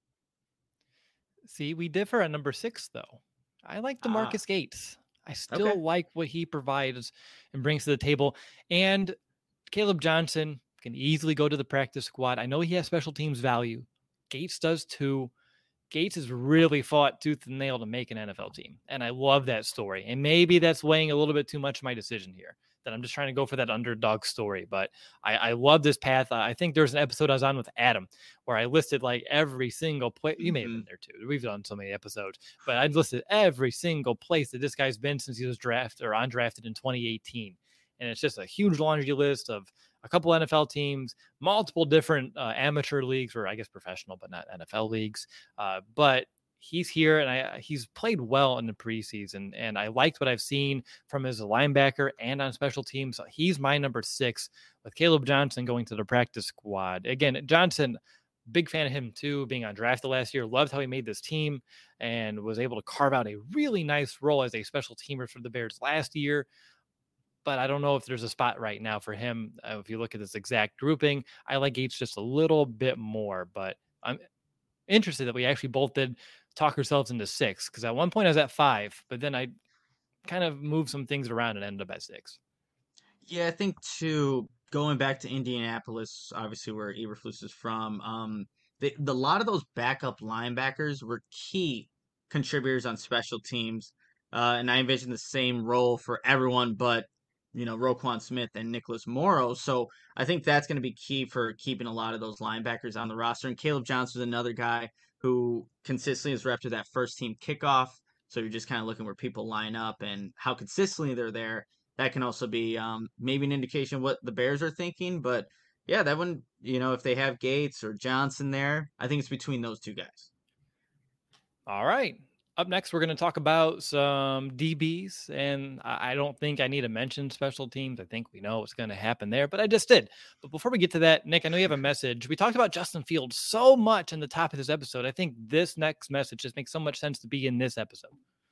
See, we differ at number six, though. I like DeMarcus Ah, Gates. I still okay. like what he provides and brings to the table. And Caleb Johnson can easily go to the practice squad. I know he has special teams value. Gates does too. Gates has really fought tooth and nail to make an N F L team. And I love that story. And maybe that's weighing a little bit too much of my decision here, that I'm just trying to go for that underdog story. But I, I love this path. I think there's an episode I was on with Adam where I listed like every single place. You may have Mhm. been there too. We've done so many episodes, but I listed every single place that this guy's been since he was drafted or undrafted in twenty eighteen. And it's just a huge laundry list of a couple N F L teams, multiple different uh, amateur leagues, or I guess professional, but not N F L leagues. Uh, but he's here, and I he's played well in the preseason, and I liked what I've seen from his linebacker and on special teams. He's my number six, with Caleb Johnson going to the practice squad. Again, Johnson, big fan of him too, being undrafted last year. Loved how he made this team and was able to carve out a really nice role as a special teamer for the Bears last year. But I don't know if there's a spot right now for him. Uh, if you look at this exact grouping, I like Gates just a little bit more, but I'm interested that we actually both did talk ourselves into six, because at one point I was at five, but then I kind of moved some things around and ended up at six. Yeah, I think too, going back to Indianapolis, obviously where Eberflus is from, um, the, the lot of those backup linebackers were key contributors on special teams. Uh, and I envision the same role for everyone but, you know, Roquan Smith and Nicholas Morrow. So I think that's going to be key for keeping a lot of those linebackers on the roster. And Caleb Johnson is another guy who consistently is repped to that first team kickoff. So you're just kind of looking where people line up and how consistently they're there. That can also be um, maybe an indication of what the Bears are thinking. But yeah, that one, you know, if they have Gates or Johnson there, I think it's between those two guys. All right. Up next, we're going to talk about some D Bs, and I don't think I need to mention special teams. I think we know what's going to happen there, but I just did. But before we get to that, Nick, I know you have a message. We talked about Justin Fields so much in the top of this episode. I think this next message just makes so much sense to be in this episode.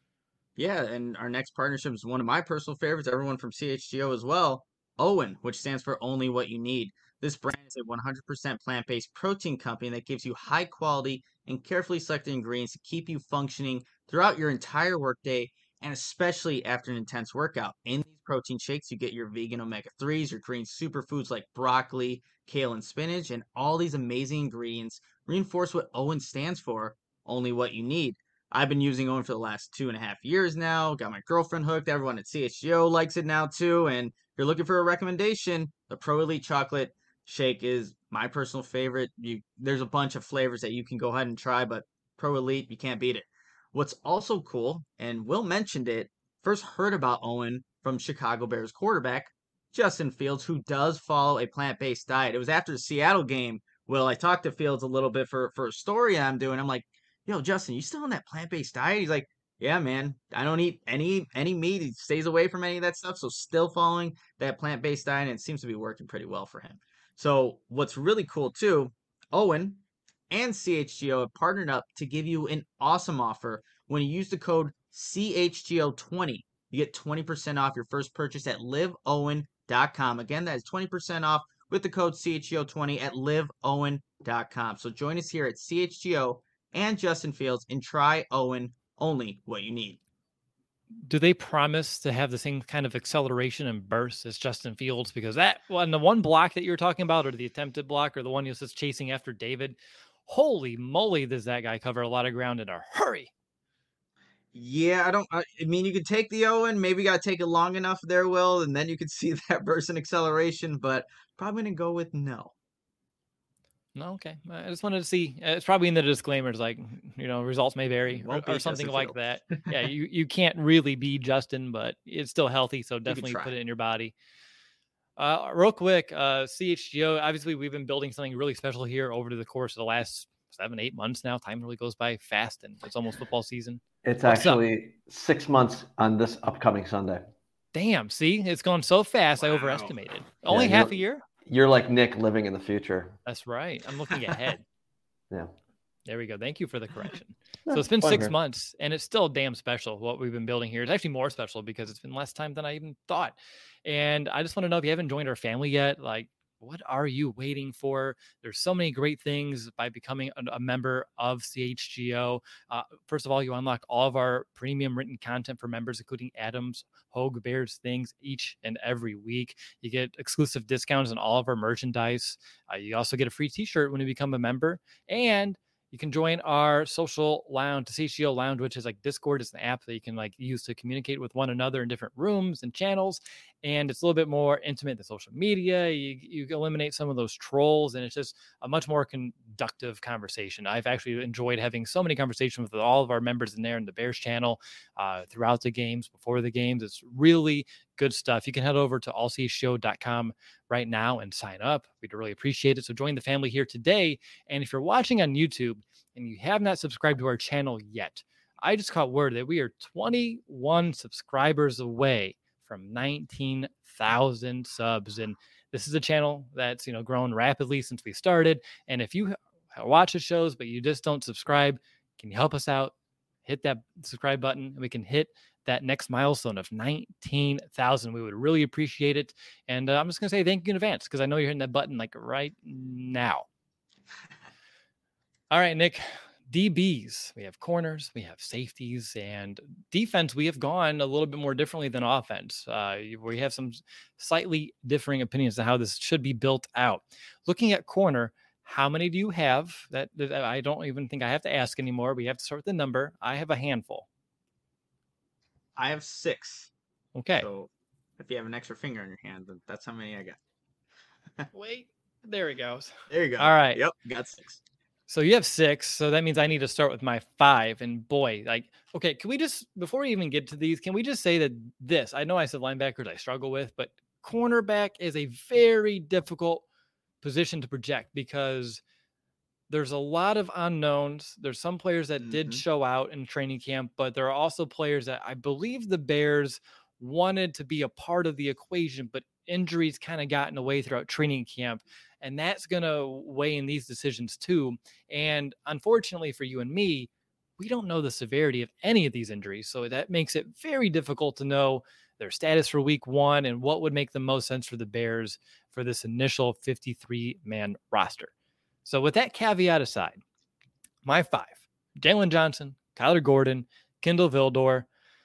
Yeah, and our next partnership is one of my personal favorites, everyone from C H G O as well, OWYN, which stands for Only What You Need. This brand is a one hundred percent plant-based protein company that gives you high quality and carefully selected ingredients to keep you functioning throughout your entire workday and especially after an intense workout. In these protein shakes, you get your vegan omega threes, your green superfoods like broccoli, kale, and spinach, and all these amazing ingredients reinforce what OWYN stands for, Only What You Need. I've been using OWYN for the last two and a half years now. Got my girlfriend hooked. Everyone at C H G O likes it now too. And if you're looking for a recommendation, the Pro Elite Chocolate Shake is my personal favorite. You, there's a bunch of flavors that you can go ahead and try, but Pro Elite, you can't beat it. What's also cool, and Will mentioned it, first heard about OWYN from Chicago Bears quarterback Justin Fields, who does follow a plant-based diet. It was after the Seattle game. Will, I talked to Fields a little bit for for a story I'm doing. I'm like, yo, Justin, you still on that plant-based diet? He's like, yeah, man, I don't eat any any meat. He stays away from any of that stuff. So still following that plant-based diet, and it seems to be working pretty well for him. So what's really cool too, OWYN and C H G O have partnered up to give you an awesome offer. When you use the code C H G O twenty, you get twenty percent off your first purchase at live owen dot com. Again, that is twenty percent off with the code C H G O twenty at live owen dot com. So join us here at C H G O and Justin Fields and try OWYN, only what you need. Do they promise to have the same kind of acceleration and burst as Justin Fields? Because that one, the one block that you're talking about, or the attempted block, or the one he was just chasing after David, holy moly, does that guy cover a lot of ground in a hurry? Yeah, I don't. I, I mean, you could take the OWYN, maybe got to take it long enough there, Will, and then you could see that burst in acceleration. But probably gonna go with no. No, okay. I just wanted to see. uh, It's probably in the disclaimers, like, you know, results may vary or, Won't or be something Justin like Fields. that. Yeah, you, you can't really be Justin, but it's still healthy, so definitely try. put it in your body. Uh, real quick, uh, C H G O, obviously we've been building something really special here over the course of the last seven, eight months now. Time really goes by fast, and it's almost football season. It's What's up? actually six months on this upcoming Sunday. Damn, see, it's gone so fast. I Wow. overestimated. Only Yeah, half a you're- year. You're like Nick living in the future. That's right. I'm looking ahead. Yeah. There we go. Thank you for the correction. Yeah, So it's been fun six here. months, and it's still damn special what we've been building here. It's actually more special because it's been less time than I even thought. And I just want to know if you haven't joined our family yet, like, what are you waiting for? There's so many great things by becoming a, a member of C H G O. Uh, first of all, you unlock all of our premium written content for members, including Adams, Hogue, Bears things each and every week. You get exclusive discounts on all of our merchandise. Uh, you also get a free t-shirt when you become a member. And you can join our social lounge, the C H G O lounge, which is like Discord. It's an app that you can like use to communicate with one another in different rooms and channels. And it's a little bit more intimate than social media. You, you eliminate some of those trolls, and it's just a much more conductive conversation. I've actually enjoyed having so many conversations with all of our members in there in the Bears channel uh, throughout the games, before the games. It's really good stuff. You can head over to all c h g o dot com right now and sign up. We'd really appreciate it. So join the family here today. And if you're watching on YouTube and you have not subscribed to our channel yet, I just caught word that we are twenty-one subscribers away from nineteen thousand subs. And this is a channel that's, you know, grown rapidly since we started. And if you watch the shows, but you just don't subscribe, can you help us out? Hit that subscribe button and we can hit that next milestone of nineteen thousand. We would really appreciate it. And uh, I'm just going to say thank you in advance because I know you're hitting that button like right now. All right, Nick. D Bs, we have corners, we have safeties, and defense. We have gone a little bit more differently than offense. Uh, we have some slightly differing opinions on how this should be built out. Looking at corner, how many do you have? That, that I don't even think I have to ask anymore. We have to start with the number. I have a handful. I have six. Okay. So if you have an extra finger in your hand, then that's how many I got. Wait, there it goes. There you go. All right. Yep, got six. So you have six. So that means I need to start with my five. And boy, like, okay, can we just, before we even get to these, can we just say that this, I know I said linebackers I struggle with, but cornerback is a very difficult position to project because there's a lot of unknowns. There's some players that Mhm. did show out in training camp, but there are also players that I believe the Bears wanted to be a part of the equation, but injuries kind of got in the way throughout training camp. And that's going to weigh in these decisions too. And unfortunately for you and me, we don't know the severity of any of these injuries. So that makes it very difficult to know their status for week one and what would make the most sense for the Bears for this initial fifty-three man roster. So with that caveat aside, my five, Jalen Johnson, Kyler Gordon, Kindle Vildor.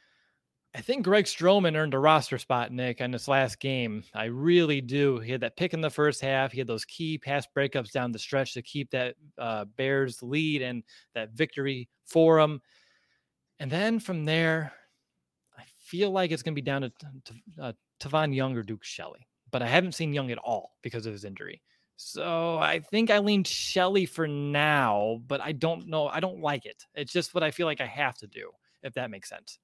I think Greg Stroman earned a roster spot, Nick, in this last game. I really do. He had that pick in the first half. He had those key pass breakups down the stretch to keep that uh, Bears lead and that victory for him. And then from there, I feel like it's going to be down to, to uh, Tavon Young or Duke Shelley. But I haven't seen Young at all because of his injury. So I think I lean Shelley for now, but I don't know. I don't like it. It's just what I feel like I have to do, if that makes sense.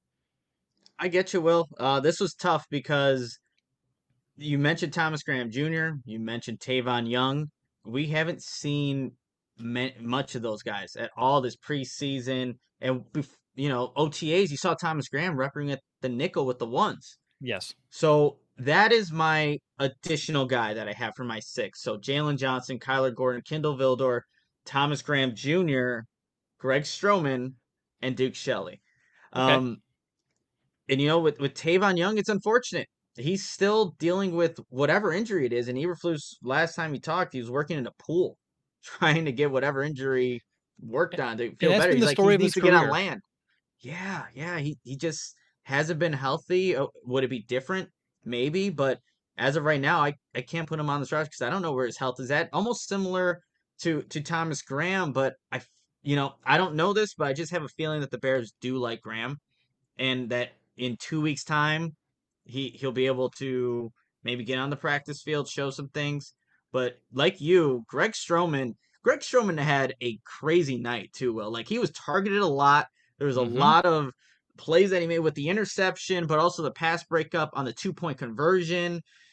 I get you, Will. Uh, this was tough because you mentioned Thomas Graham Junior You mentioned Tavon Young. We haven't seen me- much of those guys at all this preseason. And, you know, O T As, you saw Thomas Graham repping at the nickel with the ones. Yes. So that is my additional guy that I have for my six. So Jalen Johnson, Kyler Gordon, Kindle Vildor, Thomas Graham Junior, Greg Stroman, and Duke Shelley. Okay. Um, and, you know, with, with Tavon Young, it's unfortunate. He's still dealing with whatever injury it is. And Eberflus, last time he talked, he was working in a pool trying to get whatever injury worked on to feel that's better. been He's the like, story he of needs his to get on career. land. Yeah, yeah. He, he just hasn't been healthy. Oh, would it be different? Maybe. But as of right now, I, I can't put him on this roster because I don't know where his health is at. Almost similar to, to Thomas Graham. But, I, you know, I don't know this, but I just have a feeling that the Bears do like Graham. And that in two weeks' time, he, he'll be able to maybe get on the practice field, show some things. But like you, Greg Stroman, Greg Stroman had a crazy night too, Will. Like, he was targeted a lot. There was a Mhm. lot of plays that he made with the interception, but also the pass breakup on the two-point conversion.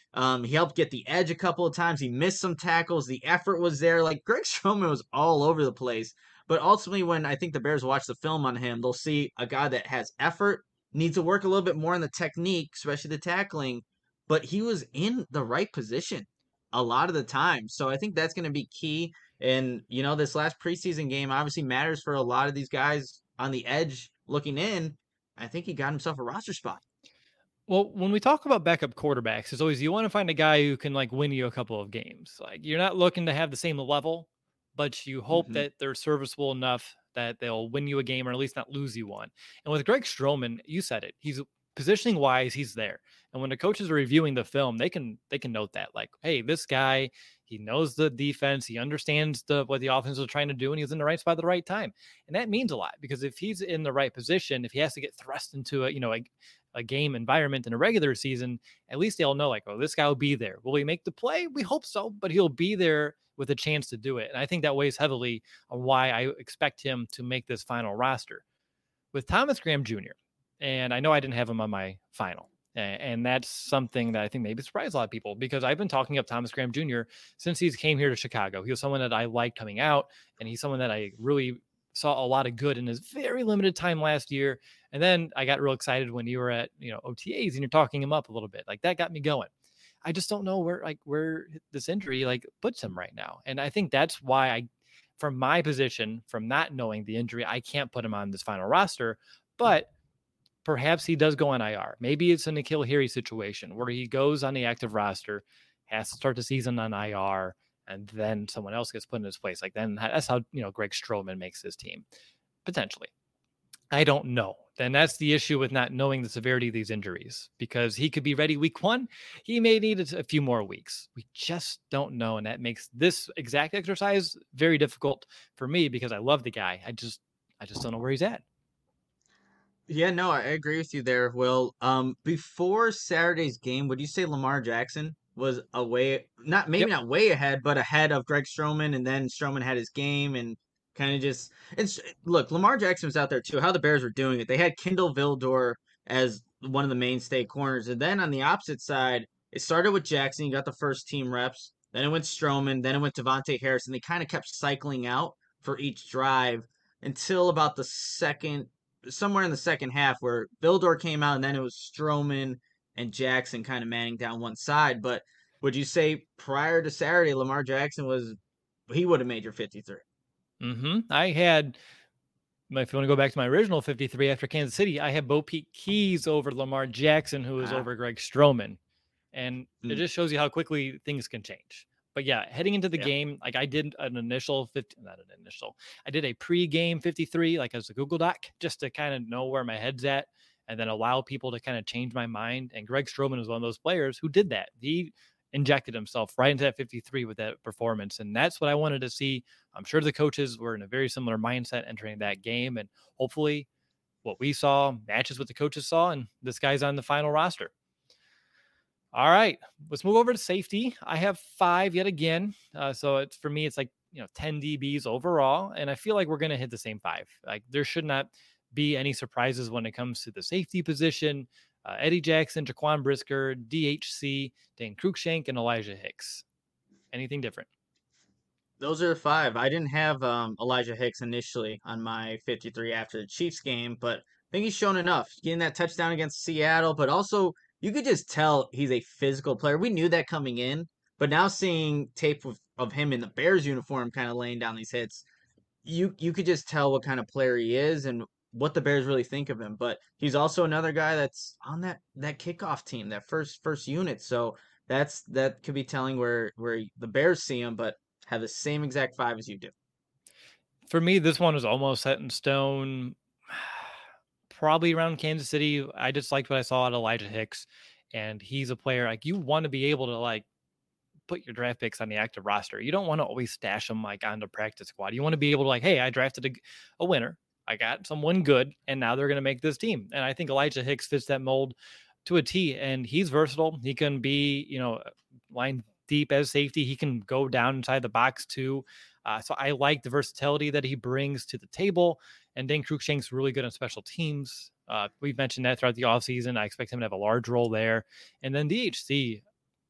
Um, he helped get the edge a couple of times. He missed some tackles. The effort was there. Like Greg Stroman was all over the place. But ultimately, when I think the Bears watch the film on him, they'll see a guy that has effort, needs to work a little bit more on the technique, especially the tackling. But he was in the right position a lot of the time. So I think that's going to be key. And, you know, this last preseason game obviously matters for a lot of these guys on the edge looking in. I think he got himself a roster spot. Well, when we talk about backup quarterbacks, it's always you want to find a guy who can like win you a couple of games. Like you're not looking to have the same level, but you hope Mm-hmm. that they're serviceable enough that they'll win you a game or at least not lose you one. And with Greg Stroman, you said it. He's positioning wise, he's there. And when the coaches are reviewing the film, they can they can note that like, hey, this guy, he knows the defense, he understands the what the offense is trying to do, and he's in the right spot at the right time. And that means a lot because if he's in the right position, if he has to get thrust into a, you know, a, a game environment in a regular season, at least they'll know like, oh, this guy will be there. Will he make the play? We hope so, but he'll be there with a chance to do it. And I think that weighs heavily on why I expect him to make this final roster. With Thomas Graham Junior, and I know I didn't have him on my final, and that's something that I think maybe surprised a lot of people because I've been talking up Thomas Graham Junior since he's came here to Chicago. He was someone that I liked coming out, and he's someone that I really saw a lot of good in his very limited time last year. And then I got real excited when you were at, you know, O T As and you're talking him up a little bit. Like that got me going. I just don't know where like where this injury like puts him right now. And I think that's why I, from my position, from not knowing the injury, I can't put him on this final roster. But perhaps he does go on I R. Maybe it's a N'Keal Harry situation where he goes on the active roster, has to start the season on I R, and then someone else gets put in his place. Like then that's how, you know, Greg Stroman makes his team. Potentially. I don't know. Then that's the issue with not knowing the severity of these injuries because he could be ready week one. He may need a few more weeks. We just don't know. And that makes this exact exercise very difficult for me because I love the guy. I just, I just don't know where he's at. Yeah, no, I agree with you there, Will. Um, before Saturday's game, would you say Lamar Jackson was away, not maybe Yep. not way ahead, but ahead of Greg Stroman, and then Stroman had his game and kind of just it's look, Lamar Jackson was out there too. How the Bears were doing it, they had Kindle Vildor as one of the mainstay corners, and then on the opposite side, it started with Jackson. You got the first team reps, then it went Stroman, then it went Devontae Harris, and they kind of kept cycling out for each drive until about the second somewhere in the second half where Vildor came out and then it was Stroman and Jackson kind of manning down one side. But would you say prior to Saturday, Lamar Jackson was he would have made your fifty-three? Mm-hmm. I had, if you want to go back to my original fifty-three after Kansas City, I had Bo Peep Keys over Lamar Jackson, who was Ah. over Greg Stroman. And Mm. it just shows you how quickly things can change. But yeah, heading into the Yeah. game, like I did an initial fifty, not an initial, I did a pre-game fifty-three, like as a Google Doc, just to kind of know where my head's at and then allow people to kind of change my mind. And Greg Stroman was one of those players who did that. He injected himself right into that fifty-three with that performance. And that's what I wanted to see. I'm sure the coaches were in a very similar mindset entering that game. And hopefully what we saw matches what the coaches saw. And this guy's on the final roster. All right, let's move over to safety. I have five yet again. Uh, so it's for me, it's like, you know, ten D Bs overall. And I feel like we're going to hit the same five. Like there should not be any surprises when it comes to the safety position. Uh, Eddie Jackson, Jaquan Brisker, D H C, Dane Cruikshank, and Elijah Hicks. Anything different? Those are five. I didn't have um, Elijah Hicks initially on my fifty-three after the Chiefs game, but I think he's shown enough. Getting that touchdown against Seattle, but also you could just tell he's a physical player. We knew that coming in, but now seeing tape of, of him in the Bears uniform kind of laying down these hits, you you could just tell what kind of player he is and what the Bears really think of him. But he's also another guy that's on that that kickoff team, that first first unit. So that's that could be telling where where the Bears see him, but have the same exact five as you do. For me, this one was almost set in stone. Probably around Kansas City. I just liked what I saw at Elijah Hicks, and he's a player like you want to be able to like put your draft picks on the active roster. You don't want to always stash them like on the practice squad. You want to be able to like, hey, I drafted a, a winner. I got someone good, and now they're going to make this team. And I think Elijah Hicks fits that mold to a T, and he's versatile. He can be, you know, line deep as safety. He can go down inside the box too. Uh, so I like the versatility that he brings to the table. And Dane Cruikshank's really good on special teams. Uh, we've mentioned that throughout the offseason. I expect him to have a large role there. And then D H C,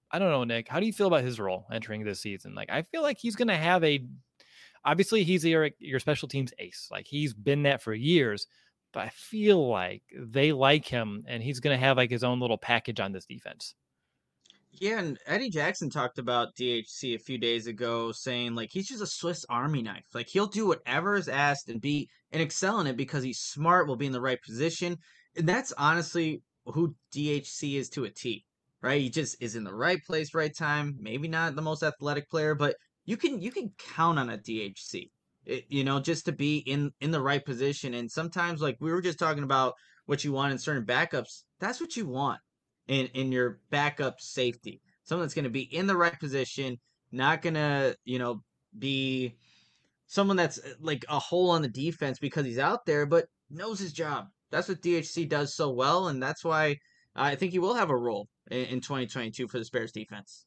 I don't know, Nick, how do you feel about his role entering this season? Like, I feel like he's going to have a, obviously he's your, your special teams ace. Like he's been that for years, but I feel like they like him and he's going to have like his own little package on this defense. Yeah, and Eddie Jackson talked about D H C a few days ago, saying like he's just a Swiss Army knife. Like he'll do whatever is asked and be and excel in it because he's smart, will be in the right position. And that's honestly who D H C is to a T, right? He just is in the right place, right time. Maybe not the most athletic player, but you can you can count on a D H C. It, you know, just to be in in the right position. And sometimes, like we were just talking about, what you want in certain backups. That's what you want in in your backup safety. Someone that's going to be in the right position, not going to, you know, be someone that's uh, like a hole on the defense because he's out there, but knows his job. That's what D H C does so well, and that's why I think he will have a role in, in twenty twenty-two for the Bears defense.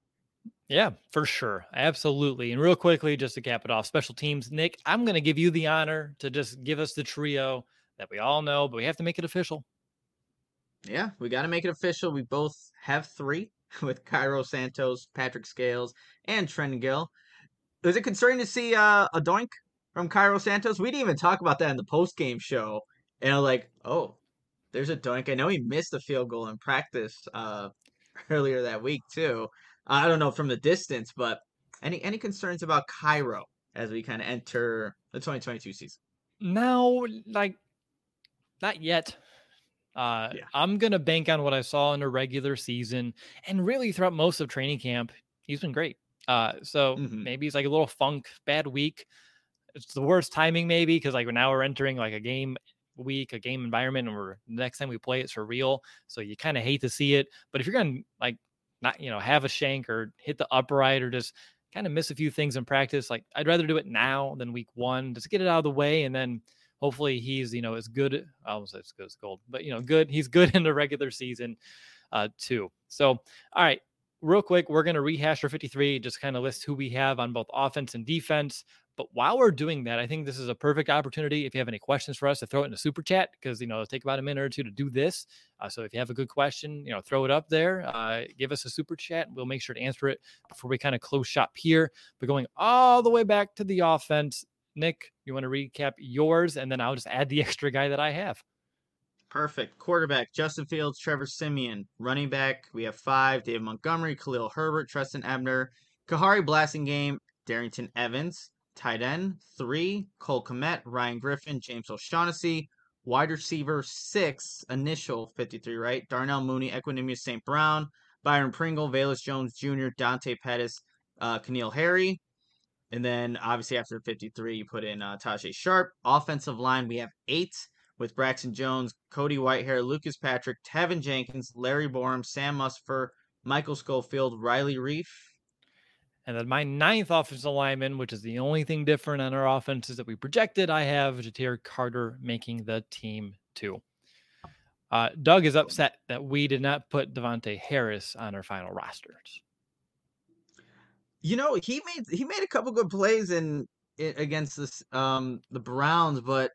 Yeah, for sure. Absolutely. And real quickly, just to cap it off, special teams, Nick, I'm going to give you the honor to just give us the trio that we all know, but we have to make it official. Yeah, we got to make it official. We both have three with Cairo Santos, Patrick Scales, and Trent Gill. Was it concerning to see uh, a doink from Cairo Santos? We didn't even talk about that in the post game show. And I'm like, oh, there's a doink. I know he missed a field goal in practice uh, earlier that week too. I don't know from the distance, but any any concerns about Cairo as we kind of enter the twenty twenty-two season? No, like not yet. Uh, Yeah. I'm going to bank on what I saw in a regular season and really throughout most of training camp. He's been great. Uh, so Mm-hmm. maybe it's like a little funk, bad week. It's the worst timing maybe because like now we're entering like a game week, a game environment, and we're the next time we play it's for real. So you kind of hate to see it. But if you're going to like not, you know, have a shank or hit the upright or just kind of miss a few things in practice, like I'd rather do it now than week one. Just get it out of the way and then hopefully he's, you know, as good. I almost said as good as gold, but you know, good. He's good in the regular season uh, too. So, all right, real quick, we're going to rehash our fifty-three, just kind of list who we have on both offense and defense. But while we're doing that, I think this is a perfect opportunity. If you have any questions for us, to throw it in a super chat because, you know, it'll take about a minute or two to do this. Uh, so if you have a good question, you know, throw it up there. Uh, give us a super chat. We'll make sure to answer it before we kind of close shop here. But going all the way back to the offense, Nick, you want to recap yours, and then I'll just add the extra guy that I have. Perfect. Quarterback, Justin Fields, Trevor Siemian. Running back, we have five, David Montgomery, Khalil Herbert, Treston Ebner, Kahari Blasingame, Darrington Evans. Tight end, three, Cole Kmet, Ryan Griffin, James O'Shaughnessy. Wide receiver, six, initial fifty-three, right? Darnell Mooney, Equanimous Saint Brown, Byron Pringle, Velus Jones Junior, Dante Pettis, uh, Keneal Harry. And then obviously after fifty-three, you put in uh, Tajay Sharp. Offensive line, we have eight with Braxton Jones, Cody Whitehair, Lucas Patrick, Tevin Jenkins, Larry Borum, Sam Musfer, Michael Schofield, Riley Reef. And then my ninth offensive lineman, which is the only thing different on our offenses that we projected, I have Ja'Tyre Carter making the team too. Uh, Doug is upset that we did not put Devontae Harris on our final rosters. You know, he made he made a couple good plays in, in against this um the Browns, but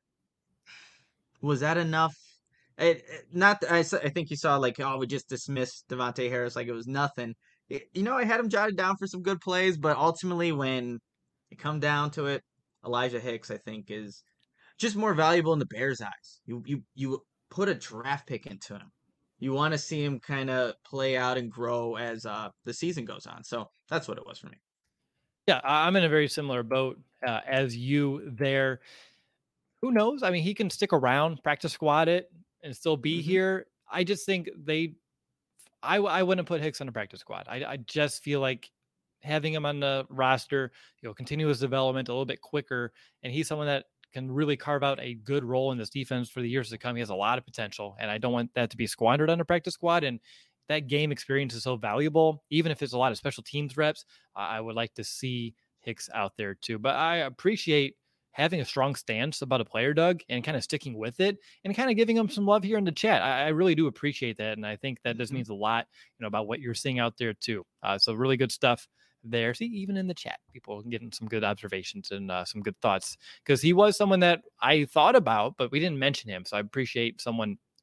was that enough? It, it- not I, s- I think you saw like, oh, we just dismissed Devontae Harris like it was nothing. It- you know, I had him jotted down for some good plays, but ultimately when it come down to it, Elijah Hicks I think is just more valuable in the Bears' eyes. You you you put a draft pick into him. You want to see him kind of play out and grow as uh the season goes on. So that's what it was for me. Yeah, I- I'm in a very similar boat uh, as you there. Who knows? I mean, he can stick around, practice squad it, and still be hmm here. I just think they, I, I wouldn't put Hicks on a practice squad. I, I just feel like having him on the roster, you know, continue his development a little bit quicker. And he's someone that can really carve out a good role in this defense for the years to come. He has a lot of potential, and I don't want that to be squandered on a practice squad. And that game experience is so valuable, even if it's a lot of special teams reps. I would like to see Hicks out there too. But I appreciate having a strong stance about a player, Doug, and kind of sticking with it and kind of giving him some love here in the chat. I, I really do appreciate that. And I think that this hmm means a lot, you know, about what you're seeing out there too. Uh, so really good stuff there. See, even in the chat, people getting some good observations and uh, some good thoughts because he was someone that I thought about, but we didn't mention him. So I appreciate someone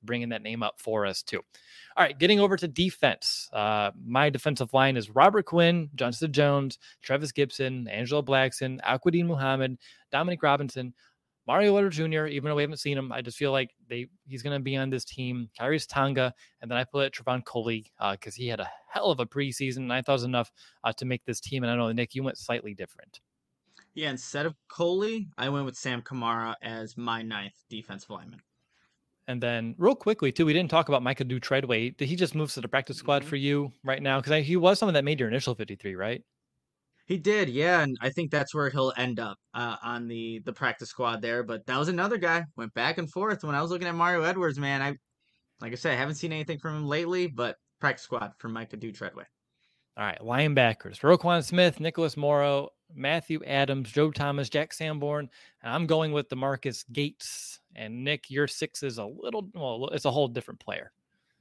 bringing that name up for us too. All right, getting over to defense. Uh, my defensive line is Robert Quinn, Johnston Jones, Trevis Gibson, Angelo Blackson, Aquadine Muhammad, Dominic Robinson, Mario Letter Junior, even though we haven't seen him, I just feel like they he's going to be on this team. Kyrie's Tonga, and then I put Trevon Coley because uh, he had a hell of a preseason, and I thought it was enough uh, to make this team. And I know, Nick, you went slightly different. Yeah, instead of Coley, I went with Sam Kamara as my ninth defensive lineman. And then real quickly, too, we didn't talk about Micah Treadway. Did he just move to the practice squad mm-hmm. for you right now? Because he was someone that made your initial fifty-three, right? He did, yeah, and I think that's where he'll end up uh, on the the practice squad there. But that was another guy. Went back and forth. When I was looking at Mario Edwards, man, I like I said, I haven't seen anything from him lately, but practice squad for Micah Treadway. All right, linebackers: Roquan Smith, Nicholas Morrow, Matthew Adams, Joe Thomas, Jack Sanborn, and I'm going with DeMarcus Gates. And Nick, your six is a little, well, it's a whole different player.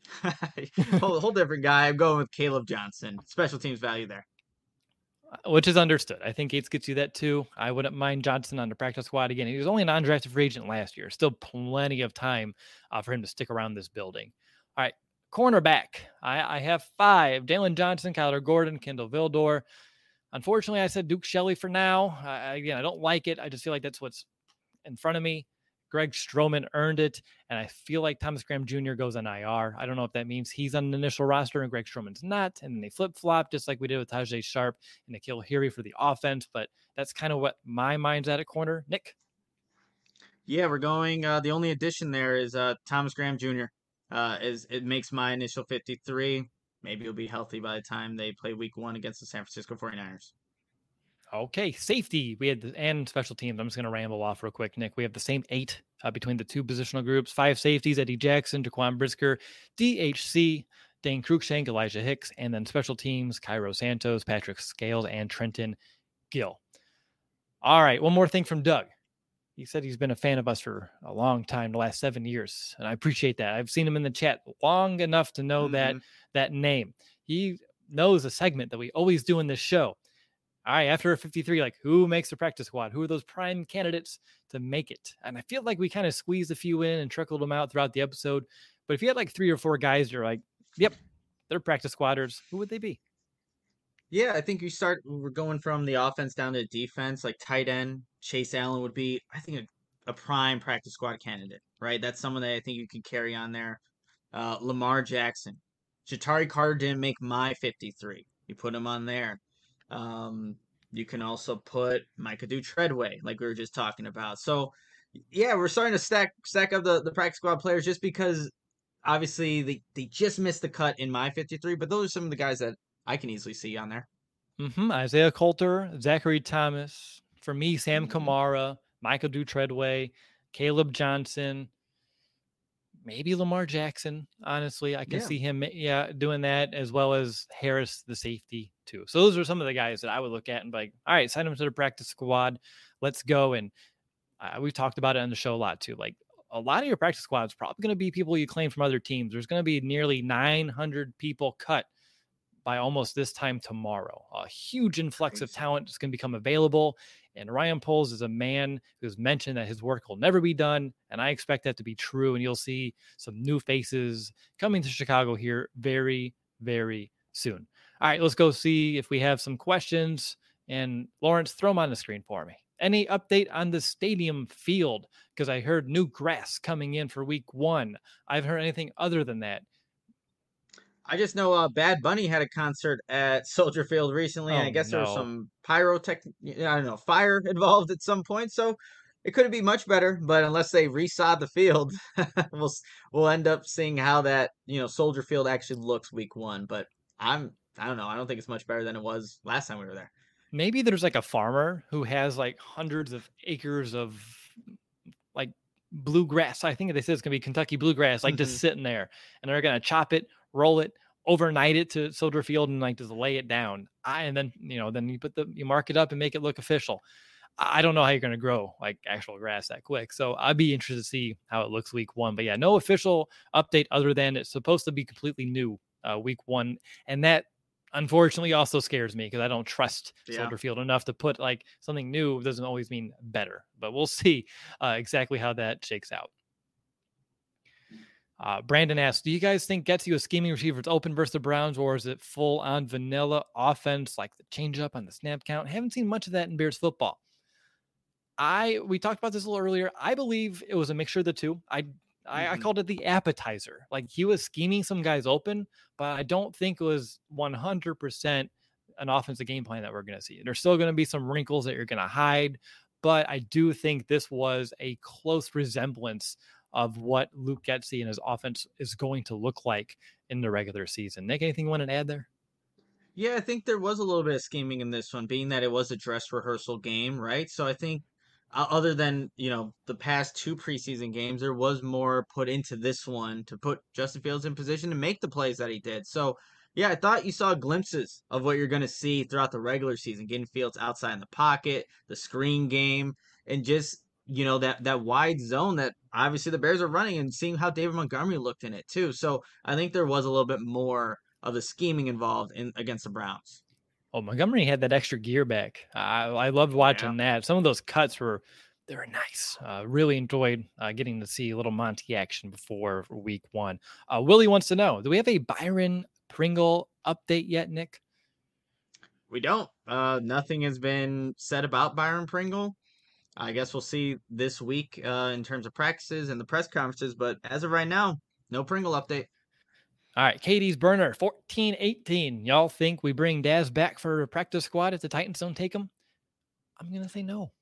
whole, whole different guy. I'm going with Caleb Johnson. Special teams value there. Which is understood. I think Gates gets you that too. I wouldn't mind Johnson on the practice squad again. He was only an undrafted free agent last year. Still plenty of time uh, for him to stick around this building. All right, cornerback. I, I have five: Dalen Johnson, Kyler Gordon, Kendall Vildor. Unfortunately, I said Duke Shelley for now. I, again, I don't like it. I just feel like that's what's in front of me. Greg Stroman earned it, and I feel like Thomas Graham Junior goes on I R. I don't know if that means he's on the initial roster and Greg Stroman's not, and then they flip-flop just like we did with Tajay Sharp and N'Keal Harry for the offense, but that's kind of what my mind's at at corner. Nick? Yeah, we're going uh, – the only addition there is uh, Thomas Graham Junior Uh, is It makes my initial fifty-three. Maybe he'll be healthy by the time they play week one against the San Francisco forty-niners. Okay, safety. We had the, and special teams. I'm just going to ramble off real quick, Nick. We have the same eight uh, between the two positional groups. Five safeties: Eddie Jackson, Jaquan Brisker, D H C, Dane Cruikshank, Elijah Hicks, and then special teams: Cairo Santos, Patrick Scales, and Trenton Gill. All right, one more thing from Doug. He said he's been a fan of us for a long time, the last seven years, and I appreciate that. I've seen him in the chat long enough to know mm-hmm. that that name. He knows a segment that we always do in this show. All right, after a fifty-three, like who makes the practice squad? Who are those prime candidates to make it? And I feel like we kind of squeezed a few in and trickled them out throughout the episode. But if you had like three or four guys, you're like, yep, they're practice squatters. Who would they be? Yeah, I think you start, we're going from the offense down to defense, like tight end. Chase Allen would be, I think, a, a prime practice squad candidate, right? That's someone that I think you can carry on there. Uh, Lamar Jackson. Ja'Tari Carter didn't make my fifty-three. You put him on there. Um, you can also put Micah Treadway, like we were just talking about. So, yeah, we're starting to stack stack up the, the practice squad players just because, obviously, they, they just missed the cut in my fifty-three, but those are some of the guys that I can easily see on there. Mm-hmm. Isaiah Coulter, Zachary Thomas. For me, Sam mm-hmm. Kamara, Micah Treadway, Caleb Johnson, maybe Lamar Jackson. Honestly, I can yeah. see him yeah, doing that, as well as Harris, the safety, too. So those are some of the guys that I would look at and be like, all right, sign them to the practice squad. Let's go. And uh, we've talked about it on the show a lot, too. Like, a lot of your practice squad is probably going to be people you claim from other teams. There's going to be nearly nine hundred people cut by almost this time tomorrow. A huge influx of talent is going to become available. And Ryan Poles is a man who's mentioned that his work will never be done. And I expect that to be true. And you'll see some new faces coming to Chicago here very, very soon. All right, let's go see if we have some questions. And Lawrence, throw them on the screen for me. Any update on the stadium field? Because I heard new grass coming in for week one. I've heard anything other than that. I just know uh, Bad Bunny had a concert at Soldier Field recently, oh, and I guess no. there was some pyrotech, I don't know, fire involved at some point. So it couldn't be much better. But unless they resod the field, we'll we'll end up seeing how that you know Soldier Field actually looks week one. But I'm I don't know. I don't think it's much better than it was last time we were there. Maybe there's like a farmer who has like hundreds of acres of like bluegrass. I think they said it's gonna be Kentucky bluegrass, like mm-hmm. just sitting there, and they're gonna chop it, roll it, overnight it to Soldier Field, and like just lay it down. I and then you know then you put the you mark it up and make it look official. I don't know how you're gonna grow like actual grass that quick, so I'd be interested to see how it looks week one. But yeah, no official update other than it's supposed to be completely new uh, week one, and that unfortunately also scares me because I don't trust yeah. Soldier Field enough to put like something new. Doesn't always mean better, but we'll see uh, exactly how that shakes out. Uh, Brandon asks, do you guys think Getsy was scheming receivers open versus the Browns, or is it full on vanilla offense like the changeup on the snap count? Haven't seen much of that in Bears football. I we talked about this a little earlier. I believe it was a mixture of the two. I I, I Mhm. called it the appetizer. Like he was scheming some guys open, but I don't think it was one hundred percent an offensive game plan that we're going to see. There's still going to be some wrinkles that you're going to hide, but I do think this was a close resemblance of what Luke Getsy and his offense is going to look like in the regular season. Nick, anything you want to add there? Yeah, I think there was a little bit of scheming in this one, being that it was a dress rehearsal game, right? So I think, uh, other than, you know, the past two preseason games, there was more put into this one to put Justin Fields in position to make the plays that he did. So, yeah, I thought you saw glimpses of what you're going to see throughout the regular season, getting Fields outside in the pocket, the screen game, and just, you know, that that wide zone that obviously the Bears are running, and seeing how David Montgomery looked in it too. So I think there was a little bit more of the scheming involved in against the Browns. Oh, Montgomery had that extra gear back. I, I loved Yeah. watching that. Some of those cuts were they were nice. Uh, really enjoyed uh, getting to see a little Monty action before week one. Uh, Willie wants to know: do we have a Byron Pringle update yet, Nick? We don't. Uh, nothing has been said about Byron Pringle. I guess we'll see this week uh, in terms of practices and the press conferences, but as of right now, no Pringle update. All right, Katie's burner fourteen eighteen. Y'all think we bring Daz back for a practice squad if the Titans don't take him? I'm gonna say no.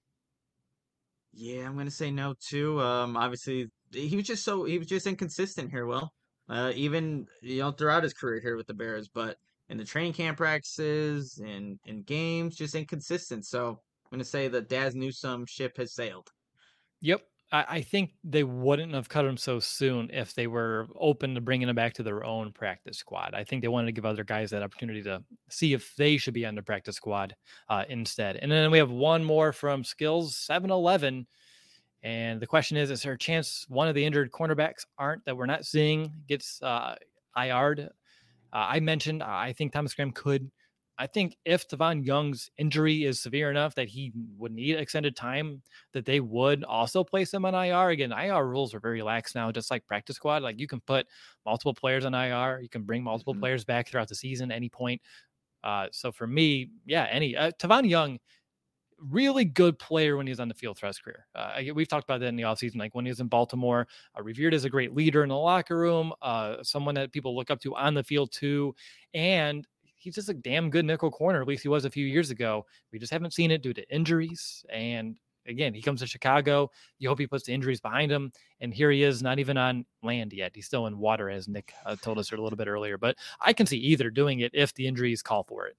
Yeah, I'm gonna say no too. Um, obviously, he was just so he was just inconsistent here. Will, uh, even you know throughout his career here with the Bears, but in the training camp practices and in games, just inconsistent. So I'm gonna say that Daz Newsome ship has sailed. Yep. I, I think they wouldn't have cut him so soon if they were open to bringing him back to their own practice squad. I think they wanted to give other guys that opportunity to see if they should be on the practice squad uh, instead. And then we have one more from Skills seven eleven. And the question is, is there a chance one of the injured cornerbacks aren't that we're not seeing gets uh, I R'd? Uh, I mentioned, uh, I think Thomas Graham could. I think if Tavon Young's injury is severe enough that he would need extended time, that they would also place him on I R. Again, I R rules are very lax now, just like practice squad. Like you can put multiple players on I R, you can bring multiple Mhm. players back throughout the season, any point. Uh, so for me, yeah, any uh, Tavon Young, really good player when he's on the field throughout his career. Uh, we've talked about that in the offseason. Like when he was in Baltimore, uh, revered as a great leader in the locker room, uh, someone that people look up to on the field too. And he's just a damn good nickel corner. At least he was a few years ago. We just haven't seen it due to injuries. And again, he comes to Chicago. You hope he puts the injuries behind him. And here he is, not even on land yet. He's still in water, as Nick uh, told us a little bit earlier. But I can see either doing it if the injuries call for it.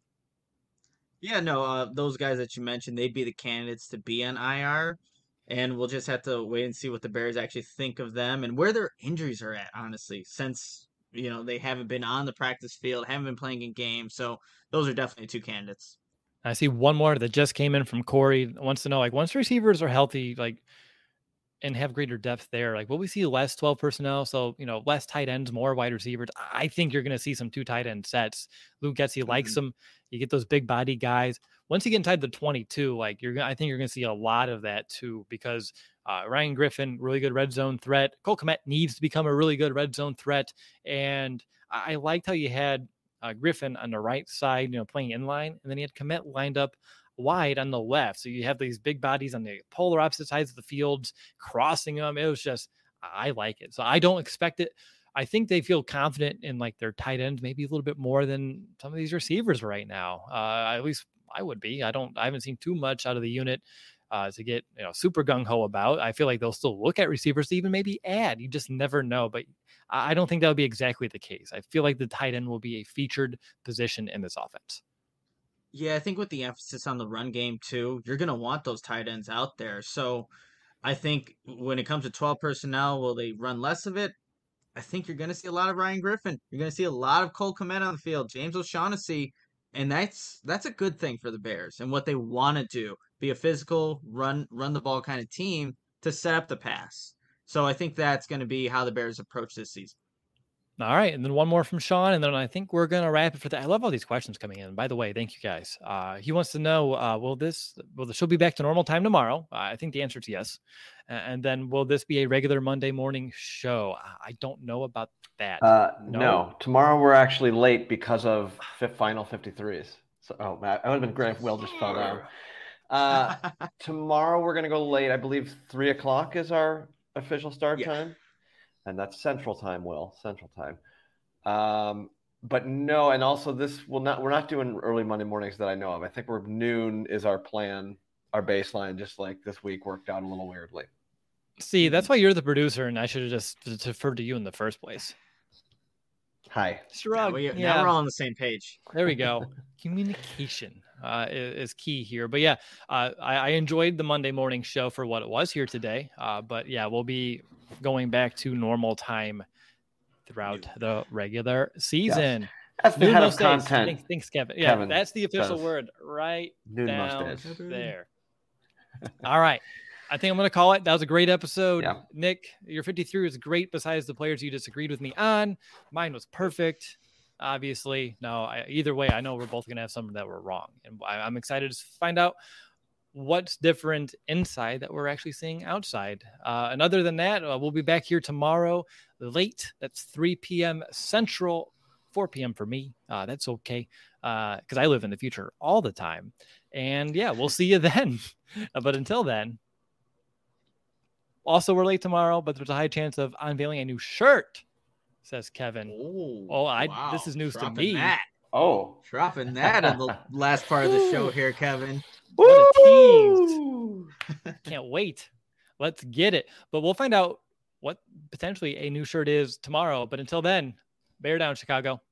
Yeah, no, uh, those guys that you mentioned, they'd be the candidates to be on I R, and we'll just have to wait and see what the Bears actually think of them and where their injuries are at, honestly, since, you know, they haven't been on the practice field, haven't been playing in games. So those are definitely two candidates. I see one more that just came in from Corey. Wants to know, like, once receivers are healthy, like, and have greater depth there, like, will we see less twelve personnel? So, you know, less tight ends, more wide receivers. I think you're going to see some two tight end sets. Luke Getsy likes Mhm. them. You get those big body guys. Once you get inside the twenty-two, like, you're, I think you're going to see a lot of that too, because uh, Ryan Griffin, really good red zone threat. Cole Kmet needs to become a really good red zone threat. And I, I liked how you had uh, Griffin on the right side, you know, playing in line, and then you had Kmet lined up wide on the left. So you have these big bodies on the polar opposite sides of the fields, crossing them. It was just, I like it. So I don't expect it. I think they feel confident in like their tight ends, maybe a little bit more than some of these receivers right now. Uh, at least I would be. I don't, I haven't seen too much out of the unit uh, to get, you know, super gung ho about. I feel like they'll still look at receivers to even maybe add. You just never know. But I don't think that would be exactly the case. I feel like the tight end will be a featured position in this offense. Yeah, I think with the emphasis on the run game too, you're gonna want those tight ends out there. So I think when it comes to twelve personnel, will they run less of it? I think you're going to see a lot of Ryan Griffin. You're going to see a lot of Cole Kmet on the field, James O'Shaughnessy, and that's that's a good thing for the Bears and what they want to do. Be a physical, run run the ball kind of team to set up the pass. So I think that's going to be how the Bears approach this season. All right. And then one more from Sean. And then I think we're going to wrap it for that. I love all these questions coming in. By the way, thank you guys. Uh, he wants to know, uh, will this, will the show be back to normal time tomorrow? Uh, I think the answer is yes. Uh, and then will this be a regular Monday morning show? I don't know about that. Uh, no. no, tomorrow we're actually late because of fifth final fifty-threes. So, oh, Matt, I would have been great if Will just fell down. Uh, tomorrow we're going to go late. I believe three o'clock is our official start Yeah. time. And that's Central Time, Will, Central Time. Um, but no, and also this will not, we're not doing early Monday mornings that I know of. I think we're noon is our plan, our baseline, just like this week worked out a little weirdly. See, that's why you're the producer, and I should have just deferred to you in the first place. Hi. Now, we, yeah. now we're all on the same page. There we go. Communication uh, is, is key here. But yeah, uh, I, I enjoyed the Monday morning show for what it was here today. Uh, but yeah, we'll be going back to normal time throughout the regular season. Yes. That's the Noon head most of days. content. Thanks, thanks, Kevin. Yeah, Kevin that's the official says. word right Noon down most days. there. All right. I think I'm going to call it. That was a great episode. Yeah. Nick, your fifty-three was great besides the players you disagreed with me on. Mine was perfect. Obviously, no, I, either way, I know we're both going to have some that were wrong. And I, I'm excited to find out what's different inside that we're actually seeing outside. Uh, and other than that, uh, we'll be back here tomorrow late. That's three p.m. Central, four p.m. for me. Uh, that's okay because uh, I live in the future all the time. And yeah, we'll see you then. But until then, also we're late tomorrow, but there's a high chance of unveiling a new shirt, says Kevin. Oh, oh I wow. this is news Dropping to me. That. Oh. Dropping that in the last part of the show here, Kevin. What a tease. Can't wait. Let's get it. But we'll find out what potentially a new shirt is tomorrow. But until then, bear down, Chicago.